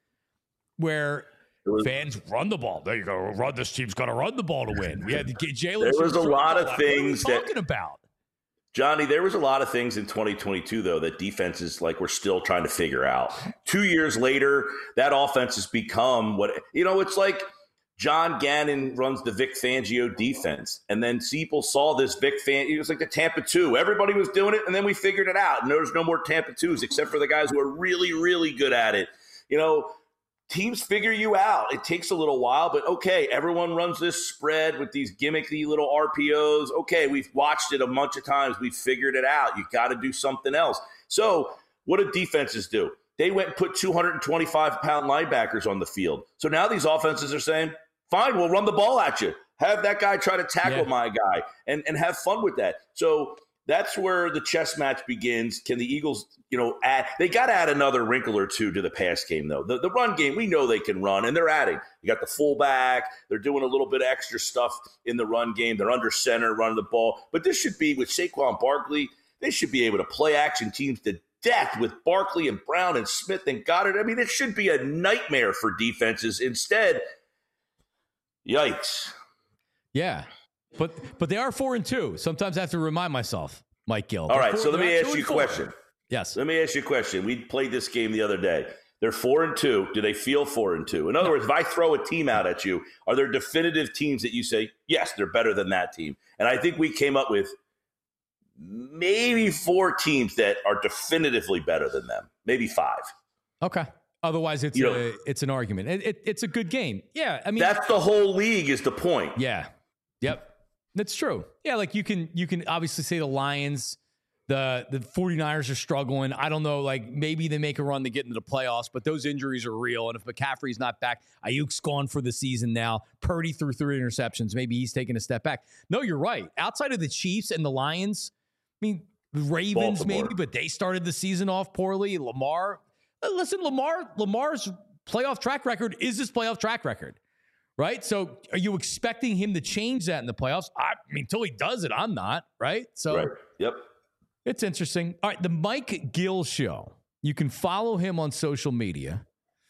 where was, fans run the ball. There you go. Run. This team's got to run the ball to win. We had to get Jalen. There was a lot of things what are we that talking about. Johnny, there was a lot of things in twenty twenty-two, though, that defenses like we're still trying to figure out. Two years later, that offense has become what, you know, it's like John Gannon runs the Vic Fangio defense. And then people saw this Vic Fangio. It was like the Tampa two. Everybody was doing it, and then we figured it out. And there was no more Tampa twos except for the guys who are really, really good at it. You know, teams figure you out. It takes a little while, but okay, everyone runs this spread with these gimmicky little R P Os. Okay, we've watched it a bunch of times. We've figured it out. You got to do something else. So what do defenses do? They went and put two hundred twenty-five pound linebackers on the field. So now these offenses are saying, fine, we'll run the ball at you. Have that guy try to tackle yeah. my guy and, and have fun with that. So that's where the chess match begins. Can the Eagles, you know, add – they got to add another wrinkle or two to the pass game, though. The, the run game, we know they can run, and they're adding. You got the fullback. They're doing a little bit of extra stuff in the run game. They're under center, running the ball. But this should be, with Saquon Barkley, they should be able to play action teams to death with Barkley and Brown and Smith and Goddard. I mean, it should be a nightmare for defenses. Instead – yikes. Yeah. But but they are four and two. Sometimes I have to remind myself, Mike Gill. All right, four, so let me ask you a four. question. Yes. Let me ask you a question. We played this game the other day. They're four and two. Do they feel four and two? In other no. words, if I throw a team out at you, are there definitive teams that you say, yes, they're better than that team? And I think we came up with maybe four teams that are definitively better than them. Maybe five. Okay. Otherwise, it's you know, a, it's an argument. It, it, it's a good game. Yeah, I mean, that's the whole league is the point. Yeah, yep, that's true. Yeah, like you can you can obviously say the Lions, the the 49ers are struggling. I don't know, like maybe they make a run to get into the playoffs, but those injuries are real. And if McCaffrey's not back, Ayuk's gone for the season now. Purdy threw three interceptions. Maybe he's taking a step back. No, you're right. Outside of the Chiefs and the Lions, I mean, the Ravens Baltimore. maybe, but they started the season off poorly. Lamar. Listen, Lamar, Lamar's playoff track record is his playoff track record, right? So are you expecting him to change that in the playoffs? I mean, until he does it, I'm not, right? So right. Yep. It's interesting. All right, the Mike Gill Show. You can follow him on social media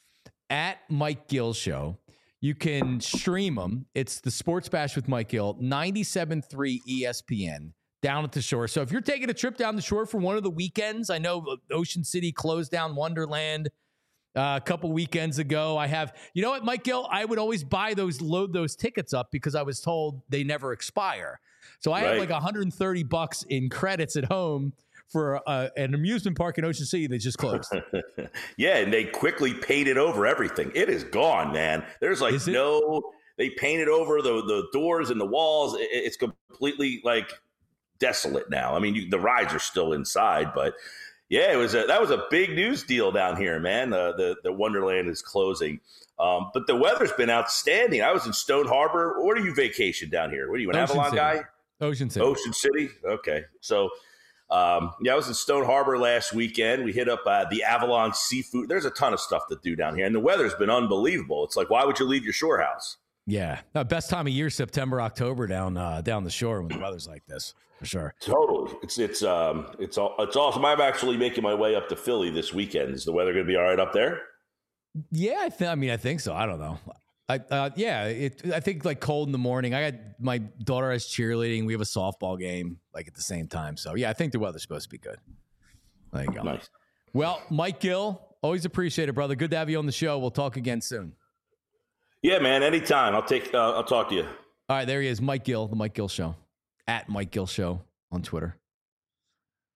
at Mike Gill Show. You can stream him. It's the Sports Bash with Mike Gill, ninety-seven point three E S P N. Down at the shore. So if you're taking a trip down the shore for one of the weekends, I know Ocean City closed down Wonderland uh, a couple weekends ago. I have, you know what, Mike Gill, I would always buy those, load those tickets up because I was told they never expire. So I right. have like one hundred thirty bucks in credits at home for uh, an amusement park in Ocean City that just closed. Yeah, and they quickly painted over everything. It is gone, man. There's like no, they painted over the, the doors and the walls. It, it's completely like desolate now. I mean, you, the rides are still inside, but yeah, it was a, that was a big news deal down here, man. Uh, the the Wonderland is closing, um, but the weather's been outstanding. I was in Stone Harbor. Where do you vacation down here? What are you, an Ocean Avalon City. guy? Ocean City. Ocean City. Okay, so um, yeah, I was in Stone Harbor last weekend. We hit up uh, the Avalon Seafood. There's a ton of stuff to do down here, and the weather's been unbelievable. It's like, why would you leave your shore house? Yeah, no, best time of year, September, October down uh, down the shore when the weather's like this. For sure. Totally. It's it's um it's all it's awesome. I'm actually making my way up to Philly this weekend. Is the weather going to be all right up there? Yeah, I think. I mean, I think so. I don't know. I uh, yeah. It. I think like cold in the morning. I got my daughter has cheerleading. We have a softball game like at the same time. So yeah, I think the weather's supposed to be good. There you go. Nice. Well, Mike Gill, always appreciate it, brother. Good to have you on the show. We'll talk again soon. Yeah, man. Anytime. I'll take. Uh, I'll talk to you. All right, there he is, Mike Gill, the Mike Gill Show. At Mike Gill Show on Twitter.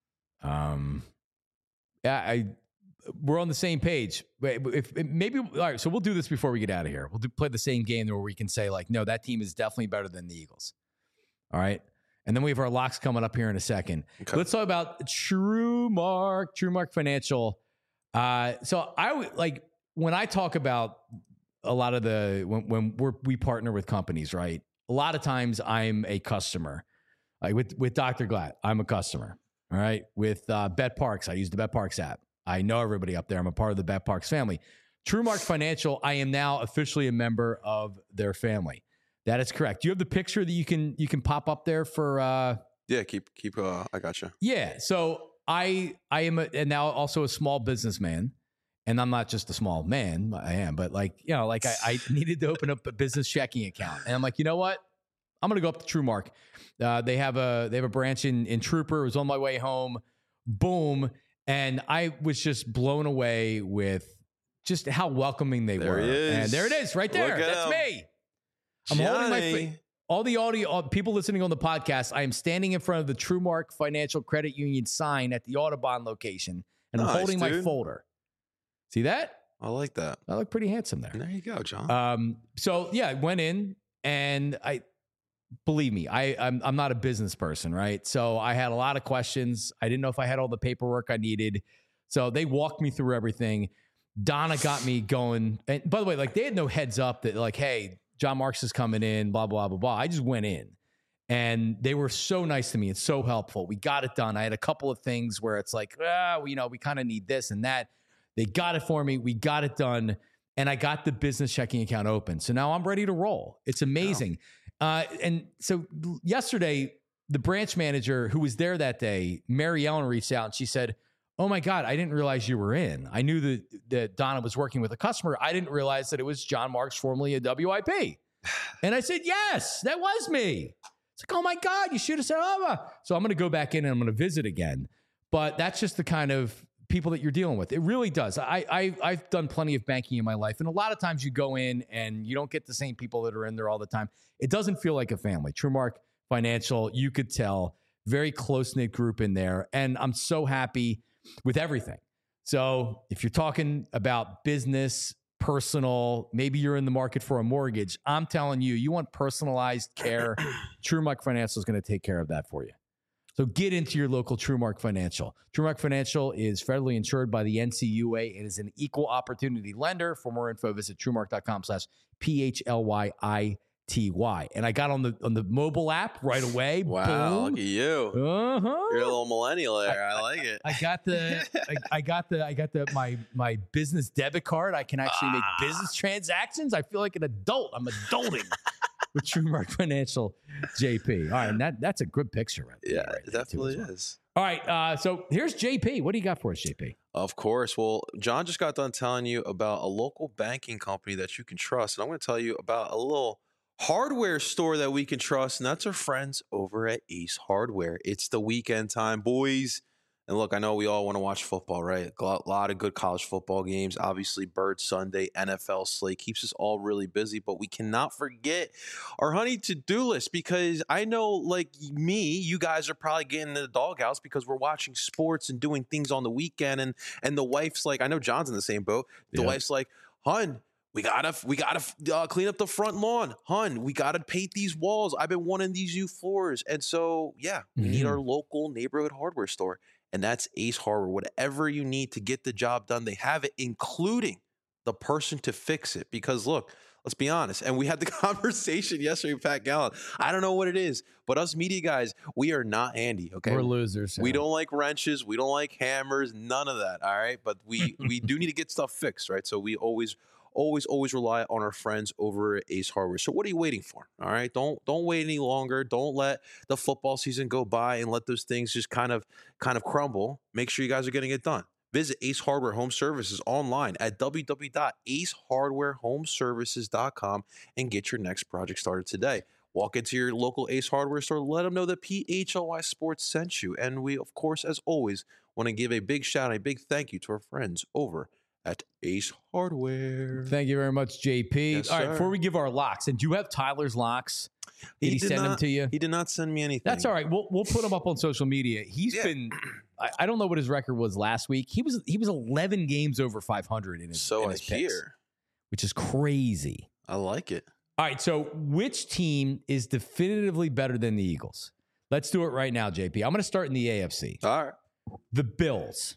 Um, yeah, I we're on the same page. If, if maybe all right, so we'll do this before we get out of here. We'll do, play the same game where we can say like, no, that team is definitely better than the Eagles. All right. And then we have our locks coming up here in a second. Okay. Let's talk about TrueMark, TrueMark Financial. Uh, so I would like when I talk about a lot of the when, when we're, we partner with companies, right? A lot of times I'm a customer. Like with with Doctor Glatt, I'm a customer. All right. With uh, BetParks, I use the BetParks app. I know everybody up there. I'm a part of the BetParks family. TrueMark Financial, I am now officially a member of their family. That is correct. Do you have the picture that you can you can pop up there for? Uh, yeah, keep keep. Uh, I got you. Yeah. So I I am a, and now also a small businessman, and I'm not just a small man. I am, but like you know, like I, I needed to open up a business checking account, and I'm like, you know what? I'm gonna go up to TrueMark. Uh, they have a they have a branch in in Trooper. It was on my way home. Boom, and I was just blown away with just how welcoming they there were. He is. And there it is, right there. That's him. Me. I'm Johnny. holding my fa- all the audio, all, people listening on the podcast. I am standing in front of the TrueMark Financial Credit Union sign at the Audubon location, and I'm nice, holding dude. my folder. See that? I like that. I look pretty handsome there. There you go, John. Um, so yeah, I went in, and I believe me, I I'm, I'm not a business person, right? So I had a lot of questions. I didn't know if I had all the paperwork I needed. So they walked me through everything. Donna got me going. And by the way, like they had no heads up that like, hey, John Marks is coming in, blah, blah, blah, blah. I just went in and they were so nice to me. It's so helpful. We got it done. I had a couple of things where it's like, ah, well, you know, we kind of need this and that. They got it for me. We got it done. And I got the business checking account open. So now I'm ready to roll. It's amazing. Wow. Uh, and so yesterday, the branch manager who was there that day, Mary Ellen, reached out and she said, oh my God, I didn't realize you were in. I knew that, that Donna was working with a customer. I didn't realize that it was John Marks, formerly a W I P. And I said, yes, that was me. It's like, oh my God, you should have said, oh. So I'm going to go back in and I'm going to visit again. But that's just the kind of people that you're dealing with. It really does. I, I, I've done plenty of banking in my life. And a lot of times you go in and you don't get the same people that are in there all the time. It doesn't feel like a family. TrueMark Financial, you could tell, very close-knit group in there. And I'm so happy with everything. So if you're talking about business, personal, maybe you're in the market for a mortgage, I'm telling you, you want personalized care, TrueMark Financial is going to take care of that for you. So get into your local TrueMark Financial. TrueMark Financial is federally insured by the N C U A and is an equal opportunity lender. For more info, visit TrueMark.com slash P H L Y I T Y. And I got on the on the mobile app right away. Wow, Boom. look at you. Uh-huh. You're a little millennial there. I, I like it. I got the I, I got the I got the my my business debit card. I can actually make Ah. business transactions. I feel like an adult. I'm adulting with TrueMark Financial J P. All right, and that that's a good picture right there. Yeah, right it there definitely too, as well. is. All right, uh, so here's J P. What do you got for us, J P? Of course. Well, John just got done telling you about a local banking company that you can trust. And I'm going to tell you about a little hardware store that we can trust, and that's our friends over at Ace Hardware. It's the weekend time, boys. And look, I know we all want to watch football, right? A lot of good college football games. Obviously, Bird Sunday, N F L slate keeps us all really busy, but we cannot forget our honey to-do list, because I know, like me, you guys are probably getting in the doghouse because we're watching sports and doing things on the weekend, and and the wife's like, I know John's in the same boat. The Yeah. wife's like, hun, we gotta, we gotta uh, clean up the front lawn, hun. We gotta paint these walls. I've been wanting these new floors, and so yeah, we need Mhm. our local neighborhood hardware store, and that's Ace Hardware. Whatever you need to get the job done, they have it, including the person to fix it. Because look, let's be honest, and we had the conversation yesterday with Pat Gallen. I don't know what it is, but us media guys, we are not handy. Okay, We're losers. we yeah. don't like wrenches. We don't like hammers. None of that. All right. But we we do need to get stuff fixed, right? So we always, always, always rely on our friends over at Ace Hardware. So what are you waiting for? All right. Don't don't wait any longer. Don't let the football season go by and let those things just kind of kind of crumble. Make sure you guys are getting it done. Visit Ace Hardware Home Services online at w w w dot ace hardware home services dot com and get your next project started today. Walk into your local Ace Hardware store, let them know that P H L Y Sports sent you. And we, of course, as always, want to give a big shout out, a big thank you to our friends over at Ace Hardware. Thank you very much, J P. Yes, All right, sir. before we give our locks, and do you have Tyler's locks? Did he, did send them not- to you? He did not send me anything. That's all right. We'll we'll put them up on social media. He's Yeah. been, I, I don't know what his record was last week. He was he was eleven games over five hundred in his, So in I his picks, hear. which is crazy. I like it. All right, so which team is definitively better than the Eagles? Let's do it right now, J P. I'm going to start in the A F C. All right. The Bills.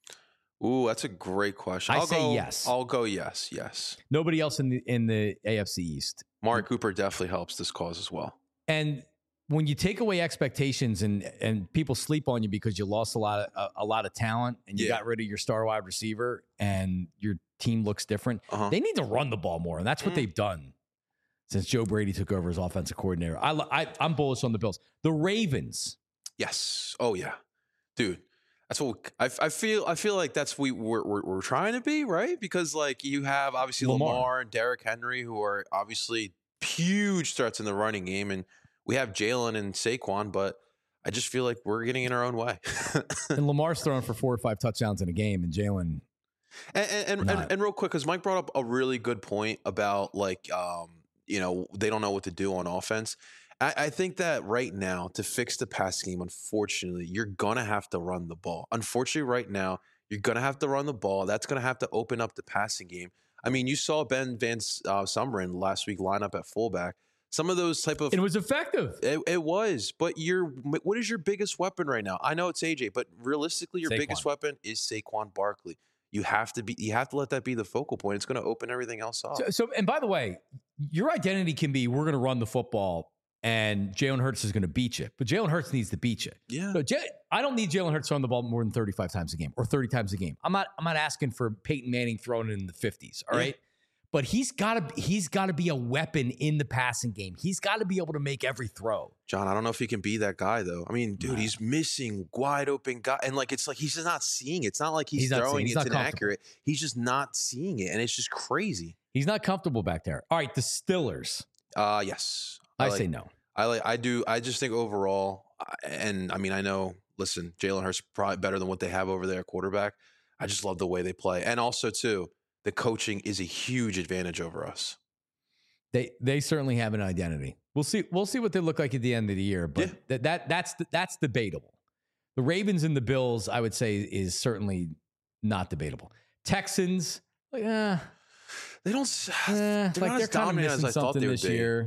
Ooh, that's a great question. I I'll say go, yes. I'll go yes, yes. Nobody else in the in the A F C East. Mari Cooper definitely helps this cause as well. And when you take away expectations and and people sleep on you because you lost a lot of a, a lot of talent and you Yeah. got rid of your star wide receiver and your team looks different, Uh-huh. they need to run the ball more, and that's what Mm. they've done since Joe Brady took over as offensive coordinator. I, I I'm bullish on the Bills. The Ravens. Yes. Oh yeah, dude. That's what we, I, I feel. I feel like that's we we're, we're we're trying to be, right? Because like you have obviously Lamar. Lamar, and Derrick Henry, who are obviously huge threats in the running game, and we have Jalen and Saquon. But I just feel like we're getting in our own way. And Lamar's throwing for four or five touchdowns in a game, and Jalen. And and, and, Not. and and real quick, because Mike brought up a really good point about like um, you know, they don't know what to do on offense. I, I think that right now, to fix the pass game, unfortunately, you're gonna have to run the ball. Unfortunately, right now, you're gonna have to run the ball. That's gonna have to open up the passing game. I mean, you saw Ben Van uh, Sumeren last week line up at fullback. Some of those type of It was effective. it, it was, but your what is your biggest weapon right now? I know it's A J, but realistically, your Saquon. biggest weapon is Saquon Barkley. You have to be. You have to let that be the focal point. It's going to open everything else up. So, so, and by the way, your identity can be we're going to run the football, and Jalen Hurts is going to beat you. But Jalen Hurts needs to beat you. yeah, So J- I don't need Jalen Hurts throwing the ball more than thirty-five times a game or thirty times a game. I'm not. I'm not asking for Peyton Manning throwing it in the fifties. All Yeah. right. But he's got to. He's got to be a weapon in the passing game. He's got to be able to make every throw. John. I don't know if he can be that guy though. I mean, dude, Nah. he's missing wide open guy, and like it's like he's just not seeing it. It's not like he's, He's not seeing- throwing he's it not inaccurate. He's just not seeing it, and it's just crazy. He's not comfortable back there. All right, the Stillers. Uh yes, I, like, say no. I like. I do. I just think overall, I- and I mean, I know. Listen, Jalen Hurts probably better than what they have over there at quarterback. I just love the way they play, and also too, the coaching is a huge advantage over us. They they certainly have an identity. We'll see. We'll see what they look like at the end of the year. But Yeah. that that that's that's debatable. The Ravens and the Bills, I would say, is certainly not debatable. Texans, like, eh, They don't. s- eh, they're like not they're as kind of dominant missing as I thought something they would this be. year.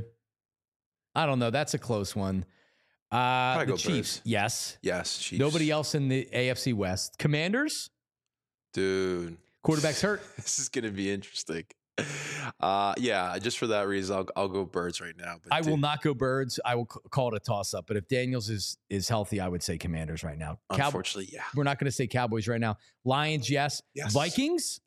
I don't know. That's a close one. Uh, Probably the go Chiefs, Birds. yes. Yes, Chiefs. Nobody else in the A F C West. Commanders, dude. quarterback's hurt. This is gonna be interesting. Uh, yeah, just for that reason, I'll I'll go Birds right now. But I will dude, not go Birds. I will c- call it a toss up. But if Daniels is is healthy, I would say Commanders right now. Cowboys. Unfortunately, yeah. We're not going to say Cowboys right now. Lions, yes. Yes. Vikings?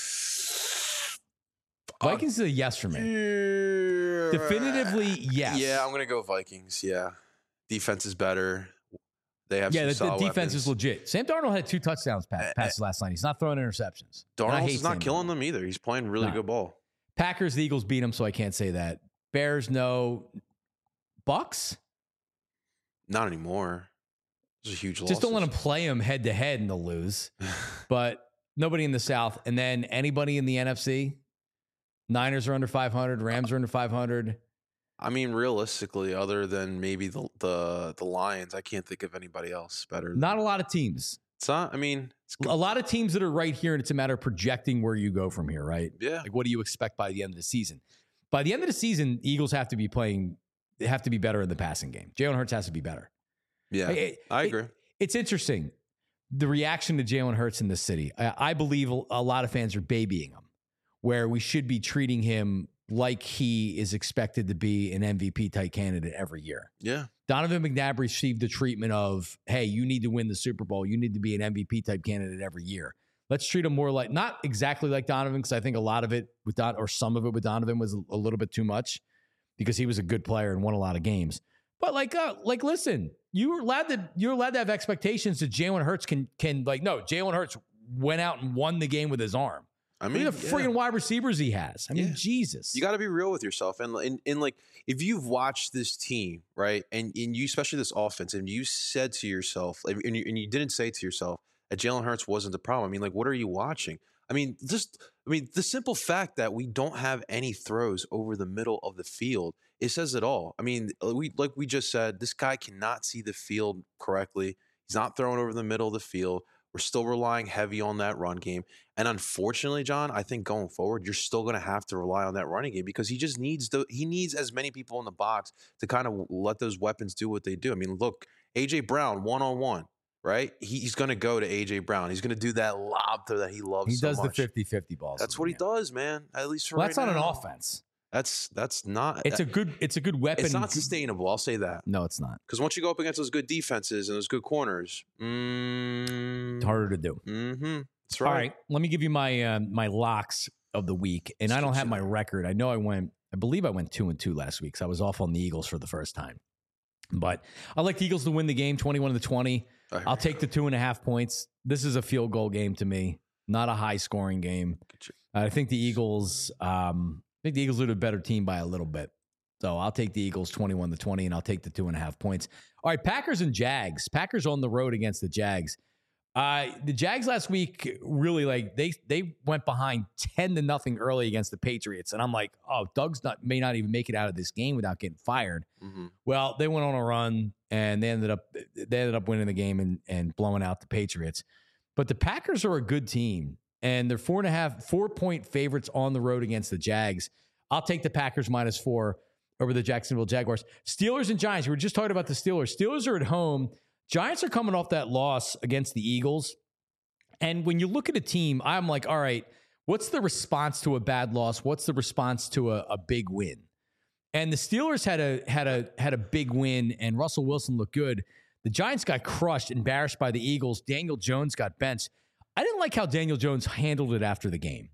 Vikings is a yes for me. Definitively yes. Yeah, I'm gonna go Vikings. Yeah, defense is better. They have Yeah, some the, the solid defense weapons. is legit. Sam Darnold had two touchdowns pass, Uh, passes last night. He's not throwing interceptions. And I Darnold's hate is not Sam killing Darnold. them either. He's playing really No. good ball. Packers, the Eagles beat them, so I can't say that. Bears, no. Bucks? Not anymore. It's a huge loss. Just don't let them play them head to head and they'll lose. But nobody in the South. And then anybody in the N F C? Niners are under five hundred. Rams are under five hundred. I mean, realistically, other than maybe the the the Lions, I can't think of anybody else better. Than, Not a lot of teams. It's not. I mean, it's, A lot of teams that are right here, and it's a matter of projecting where you go from here, right? yeah. Like, what do you expect by the end of the season? By the end of the season, Eagles have to be playing, they have to be better in the passing game. Jalen Hurts has to be better. Yeah, It- I it- agree. It's interesting, the reaction to Jalen Hurts in this city. I, I believe a lot of fans are babying him, where we should be treating him like he is expected to be an M V P type candidate every year. Yeah, Donovan McNabb received the treatment of, hey, you need to win the Super Bowl. You need to be an M V P type candidate every year. Let's treat him more like, not exactly like Donovan, because I think a lot of it with Don, or some of it with Donovan was a, a little bit too much because he was a good player and won a lot of games. But like, uh, like, listen, you're allowed to you're allowed to have expectations that Jalen Hurts can can like. No, Jalen Hurts went out and won the game with his arm. I I mean, mean, the yeah. friggin' wide receivers he has. I mean, Yeah. Jesus. You got to be real with yourself, and, and and like if you've watched this team, right, and and you especially this offense, and you said to yourself, like, and you, and you didn't say to yourself that Jalen Hurts wasn't the problem. I mean, like, what are you watching? I mean, just I mean, the simple fact that we don't have any throws over the middle of the field, it says it all. I mean, we like we just said, this guy cannot see the field correctly. He's not throwing over the middle of the field. We're still relying heavy on that run game. And unfortunately, John, I think going forward, you're still going to have to rely on that running game because he just needs the he needs as many people in the box to kind of let those weapons do what they do. I mean, look, A J Brown one-on-one, right? He, he's going to go to A J Brown. He's going to do that lob throw that he loves He so does much. the fifty-fifty balls. That's what he does, man. At least for Well, right that's not now. an offense. That's that's not. It's a good. It's a good weapon. It's not sustainable. I'll say that. No, it's not. Because once you go up against those good defenses and those good corners, mm, It's harder to do. Mm-hmm. That's right. All right, let me give you my uh, my locks of the week, and I don't have my record. I know I went. I believe I went two and two last week, so I was off on the Eagles for the first time. But I like the Eagles to win the game, twenty-one to twenty. I'll take the two and a half points. This is a field goal game to me, not a high scoring game. I think the Eagles. Um, I think the Eagles are the better team by a little bit. So I'll take the Eagles twenty-one to twenty, and I'll take the two and a half points. All right, Packers and Jags. Packers on the road against the Jags. Uh, the Jags last week really like they they went behind ten to nothing early against the Patriots, and I'm like, oh, Doug's not may not even make it out of this game without getting fired. Mm-hmm. Well, they went on a run and they ended up they ended up winning the game and and blowing out the Patriots. But the Packers are a good team, and they're four and a half four point favorites on the road against the Jags. I'll take the Packers minus four over the Jacksonville Jaguars. Steelers and Giants. We were just talking about the Steelers. Steelers are at home. Giants are coming off that loss against the Eagles. And when you look at a team, I'm like, all right, what's the response to a bad loss? What's the response to a, a big win? And the Steelers had a had a had a big win, and Russell Wilson looked good. The Giants got crushed, embarrassed by the Eagles. Daniel Jones got benched. I didn't like how Daniel Jones handled it after the game.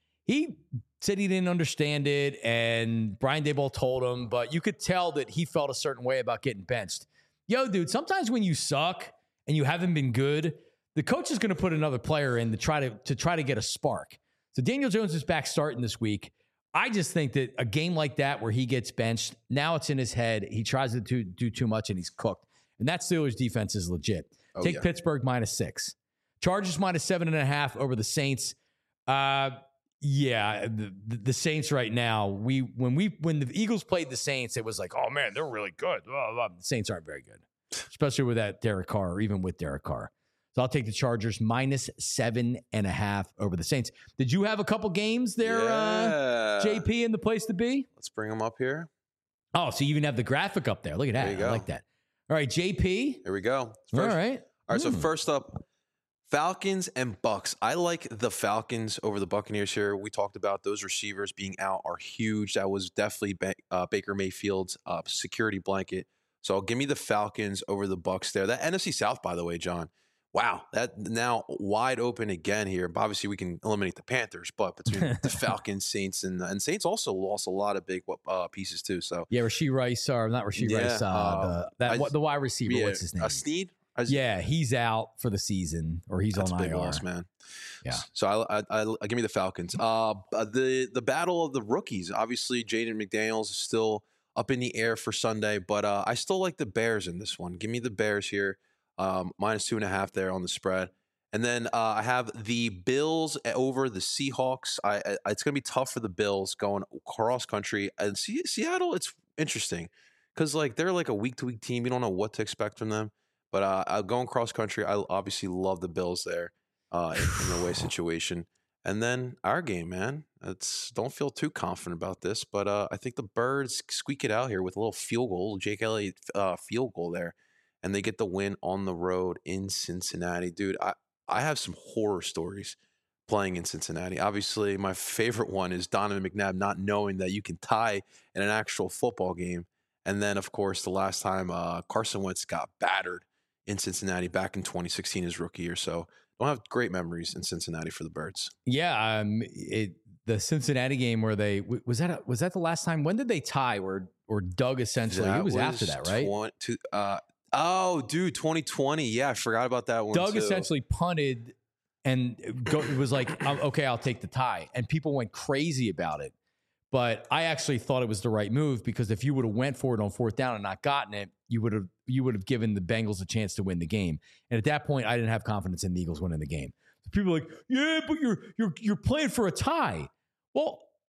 He said he didn't understand it, and Brian Daboll told him, but you could tell that he felt a certain way about getting benched. Yo, dude, sometimes when you suck and you haven't been good, the coach is going to put another player in to try to, to try to get a spark. So Daniel Jones is back starting this week. I just think that a game like that where he gets benched, now it's in his head. He tries to do, do too much and he's cooked. And that Steelers defense is legit. Oh, Take yeah. Pittsburgh minus six. Chargers minus seven and a half over the Saints. Uh, yeah, the, the Saints right now. We when we when the Eagles played the Saints, it was like, oh man, they're really good. Blah, blah. The Saints aren't very good, especially with that Derek Carr, or even with Derek Carr. So I'll take the Chargers minus seven and a half over the Saints. Did you have a couple games there, Yeah. uh, J P, in the place to be? Let's bring them up here. Oh, so you even have the graphic up there. Look at that. There you I go. like that. All right, J P. Here we go. First, All right. All right, so Hmm. first up, Falcons and Bucks. I like the Falcons over the Buccaneers here. We talked about those receivers being out are huge. That was definitely ba- uh, Baker Mayfield's uh, security blanket. So give me the Falcons over the Bucks there. That N F C South, by the way, John. Wow, that now wide open again here. Obviously, we can eliminate the Panthers, but between the Falcons, Saints, and and Saints also lost a lot of big uh, pieces too. So Yeah, Rasheed Rice, or not Rasheed Yeah, Rice, uh, uh, the, that, I- what, the wide receiver. yeah, What's his name? Uh, Snead. I- Yeah, he's out for the season, or he's That's a on big I R. loss, man. Yeah. So I, I, I, I give me the Falcons. Uh, the the battle of the rookies. Obviously, Jaden McDaniels is still up in the air for Sunday, but uh, I still like the Bears in this one. Give me the Bears here, um, minus two and a half there on the spread. And then uh, I have the Bills over the Seahawks. I, I it's going to be tough for the Bills going cross country. And Se- Seattle, it's interesting because like they're like a week to week team. You don't know what to expect from them. But uh, I'm going cross country. I obviously love the Bills there uh, in, in the away situation. And then our game, man. It's don't feel too confident about this, but uh, I think the Birds squeak it out here with a little field goal, Jake Elliott uh, field goal there, and they get the win on the road in Cincinnati, dude. I I have some horror stories playing in Cincinnati. Obviously, my favorite one is Donovan McNabb not knowing that you can tie in an actual football game, and then of course the last time uh, Carson Wentz got battered in Cincinnati back in twenty sixteen, his rookie year. So don't have great memories in Cincinnati for the Birds. Yeah, um, it the Cincinnati game where they was that a, was that the last time? When did they tie? Where or Doug essentially That it was, after that, right? twenty, to, uh, oh, dude, twenty twenty. Yeah, I forgot about that one. Doug too. essentially punted and go, it was like, um, okay, I'll take the tie, and people went crazy about it. But I actually thought it was the right move because if you would have went for it on fourth down and not gotten it, you would have you would have given the Bengals a chance to win the game. And at that point, I didn't have confidence in the Eagles winning the game. So people are like, yeah, but you're you're you're playing for a tie. Well,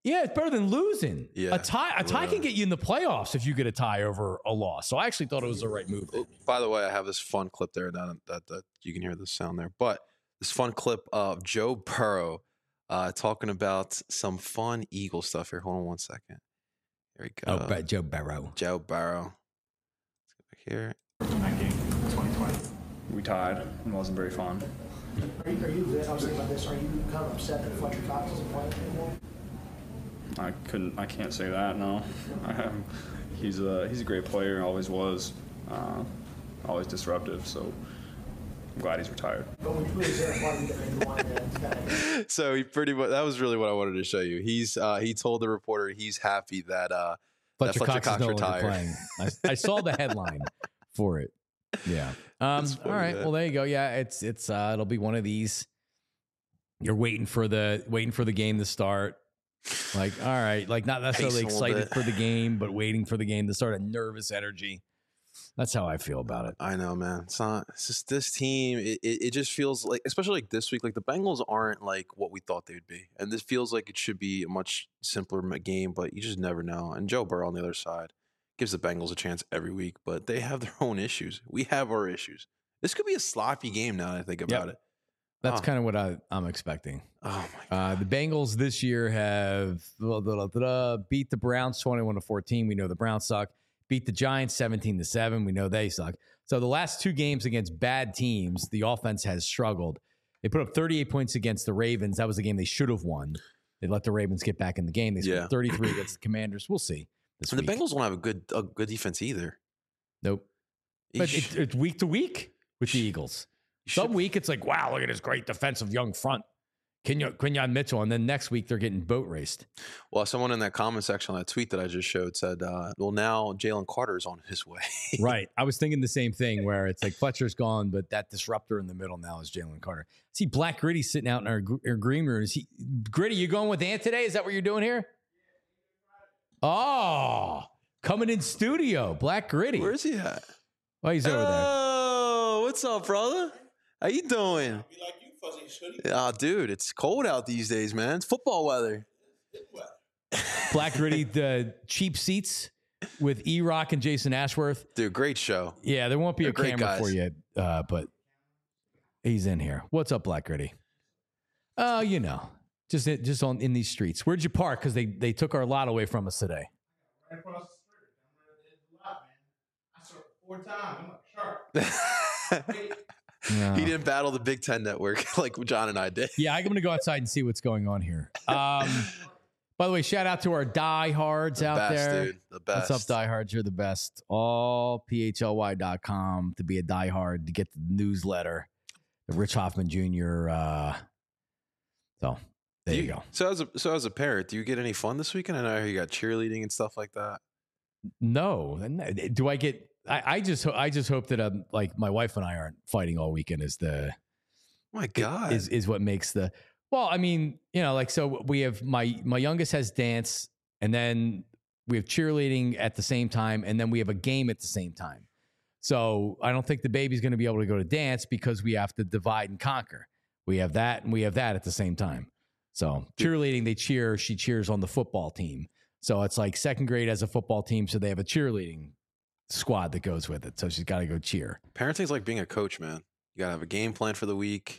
Yeah, it's better than losing. Yeah, a tie, a tie yeah. can get you in the playoffs if you get a tie over a loss. So I actually thought it was the right move. Oh, by the way, I have this fun clip there that, that that you can hear the sound there, but this fun clip of Joe Burrow uh, talking about some fun Eagle stuff here. Hold on one second. Here we go. Oh, but Joe Burrow. Joe Burrow. Let's go back here. That game, twenty twenty. We tied. It wasn't very fun. Are you, are you, I was thinking about this, are you kind of upset that Fletcher Cox isn't playing anymore? I couldn't. I can't say that. No, um, he's a he's a great player. Always was. Uh, always disruptive. So I'm glad he's retired. But when you lose there, part of you you wanted to kind of. So he pretty much that was really what I wanted to show you. He's uh, he told the reporter he's happy that uh, Fletcher, that Fletcher Cox, Cox is no longer retired. playing. I, I saw the headline for it. Yeah. Um, That's funny, all right. man. Well, there you go. Yeah, it's it's uh, it'll be one of these. You're waiting for the waiting for the game to start. Like, all right, like not necessarily Pacing a little excited bit. for the game, but waiting for the game to start. A nervous energy. That's how I feel about it. I know, man. It's not. It's just this team. It, it, it just feels like, especially like this week, like the Bengals aren't like what we thought they would be, and this feels like it should be a much simpler m- game. But you just never know. And Joe Burrow on the other side gives the Bengals a chance every week, but they have their own issues. We have our issues. This could be a sloppy game now that I think about it. That's Oh. kind of what I, I'm expecting. Oh my god. Uh, the Bengals this year have blah, blah, blah, blah, beat the Browns twenty-one to fourteen. We know the Browns suck. Beat the Giants seventeen to seven. We know they suck. So the last two games against bad teams, the offense has struggled. They put up thirty-eight points against the Ravens. That was a game they should have won. They let the Ravens get back in the game. They scored Yeah. thirty-three against the Commanders. We'll see this And the week. Bengals don't have a good a good defense either. Nope. But Eesh. it's, it's week to week with the Eagles. You Some should- week it's like, wow, look at this great defensive young front. Quinion, Quinion Mitchell. And then next week they're getting boat raced. Well, someone in that comment section on that tweet that I just showed said, uh, well, now Jalen Carter is on his way. Right. I was thinking the same thing where it's like Fletcher's gone, but that disruptor in the middle now is Jalen Carter. See Black Gritty sitting out in our, gr- our green room. Is he Gritty, you going with Ant today? Is that what you're doing here? Oh, coming in studio. Black Gritty. Where's he at? Oh, he's over there. Oh, what's up, brother? How you doing? Oh, dude, it's cold out these days, man. It's football weather. Black Gritty, the cheap seats with E-Rock and Jason Ashworth. Dude, great show. Yeah, there won't be They're a great camera guys. for you, uh, but he's in here. What's up, Black Gritty? Oh, you know, just just on in these streets. Where'd you park? Because they they took our lot away from us today. Right across the street. I'm right at the lot, man. I served four times. I'm like, sharp. No. He didn't battle the Big Ten Network like John and I did. Yeah, I'm going to go outside and see what's going on here. Um, by the way, shout out to our diehards The out best, there. dude. The best. What's up, diehards? You're the best. All P H L Y dot com to be a diehard, to get the newsletter, the Rich Hoffman Junior Uh, so there Do you, go. So as a so as a parent, do you get any fun this weekend? I know you got cheerleading and stuff like that. No, do I get? I, I just I just hope that um like my wife and I aren't fighting all weekend. Is the Oh my God. is is what makes the well. I mean, you know, like so we have my my youngest has dance, and then we have cheerleading at the same time, and then we have a game at the same time. So I don't think the baby's going to be able to go to dance because we have to divide and conquer. We have that and we have that at the same time. So cheerleading, they cheer. She cheers on the football team. So it's like second grade has a football team, so they have a cheerleading squad that goes with it. So she's got to go cheer. Parenting's like being a coach, man. You gotta have a game plan for the week.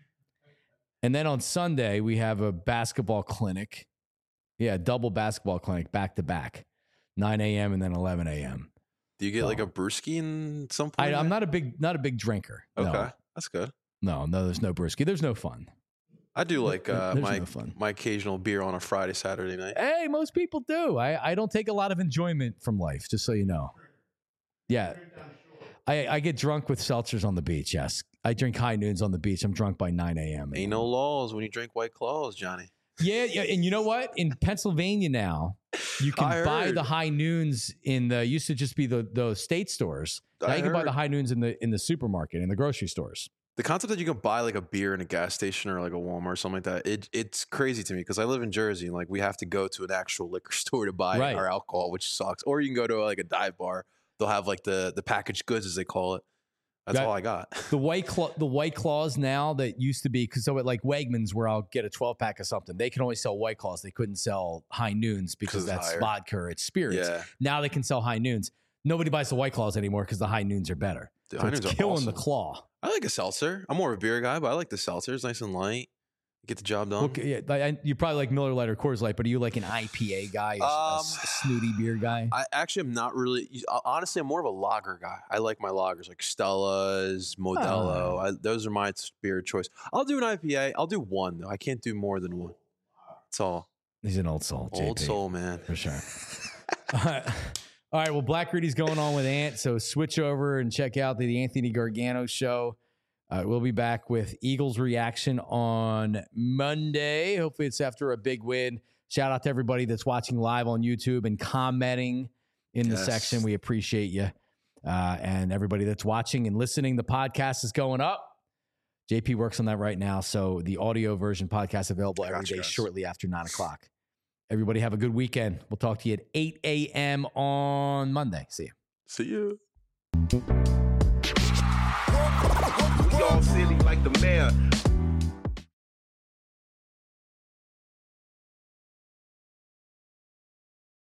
And then on Sunday, we have a basketball clinic. Yeah, double basketball clinic back to back, nine a.m. and then eleven a.m. Do you get So- like a brewski in some point? I, I'm not a big not a big drinker. Okay, No, that's good. no, no. There's no brewski. There's no fun. I do like uh, There's my no fun. my occasional beer on a Friday, Saturday night. Hey, most people do. I, I don't take a lot of enjoyment from life, just so you know. Yeah. I, I get drunk with seltzers on the beach, yes. I drink high noons on the beach. I'm drunk by nine a.m. Ain't no laws when you drink White Claws, Johnny. Yeah, yeah, and you know what? In Pennsylvania now, you I can buy heard. the high noons in the used to just be the the state stores. Now I you can buy heard. the high noons in the in the supermarket, in the grocery stores. The concept that you can buy like a beer in a gas station or like a Walmart or something like that, it it's crazy to me because I live in Jersey and like we have to go to an actual liquor store to buy Right. our alcohol, which sucks. Or you can go to like a dive bar. They'll have like the the packaged goods as they call it. That's That- all I got. The white claw, the white claws now that used to be because so at like Wegmans where I'll get a twelve pack of something, they can only sell white claws. They couldn't sell high noons because it's that's higher. vodka or it's spirits. Yeah. Now they can sell high noons. Nobody buys the white claws anymore because the high noons are better. The So high it's noons are killing the awesome. claw. I like a seltzer. I'm more of a beer guy, but I like the seltzer. It's nice and light. Get the job done. Okay, yeah, like, I- you probably like Miller Lite or Coors Light, but are you like an I P A guy, a, a Um, s- snooty beer guy? I actually am not really. Honestly, I'm more of a lager guy. I like my lagers like Stella's, Modelo. Oh. I, those are my beer choice. I'll do an I P A. I'll do one though. I can't do more than one. That's all. He's an old soul. Old J P, soul, man. for sure. All right. All right, well, Black Gritty's going on with Ant, so switch over and check out the Anthony Gargano show. Uh, we'll be back with Eagles reaction on Monday. Hopefully, it's after a big win. Shout out to everybody that's watching live on YouTube and commenting in the Yes. section. We appreciate you. Uh, and everybody that's watching and listening, the podcast is going up. J P works on that right now. So the audio version podcast available every Gotcha, day guys. shortly after nine o'clock. Everybody have a good weekend. We'll talk to you at eight a.m. on Monday. See you. See you. We all silly like the mayor.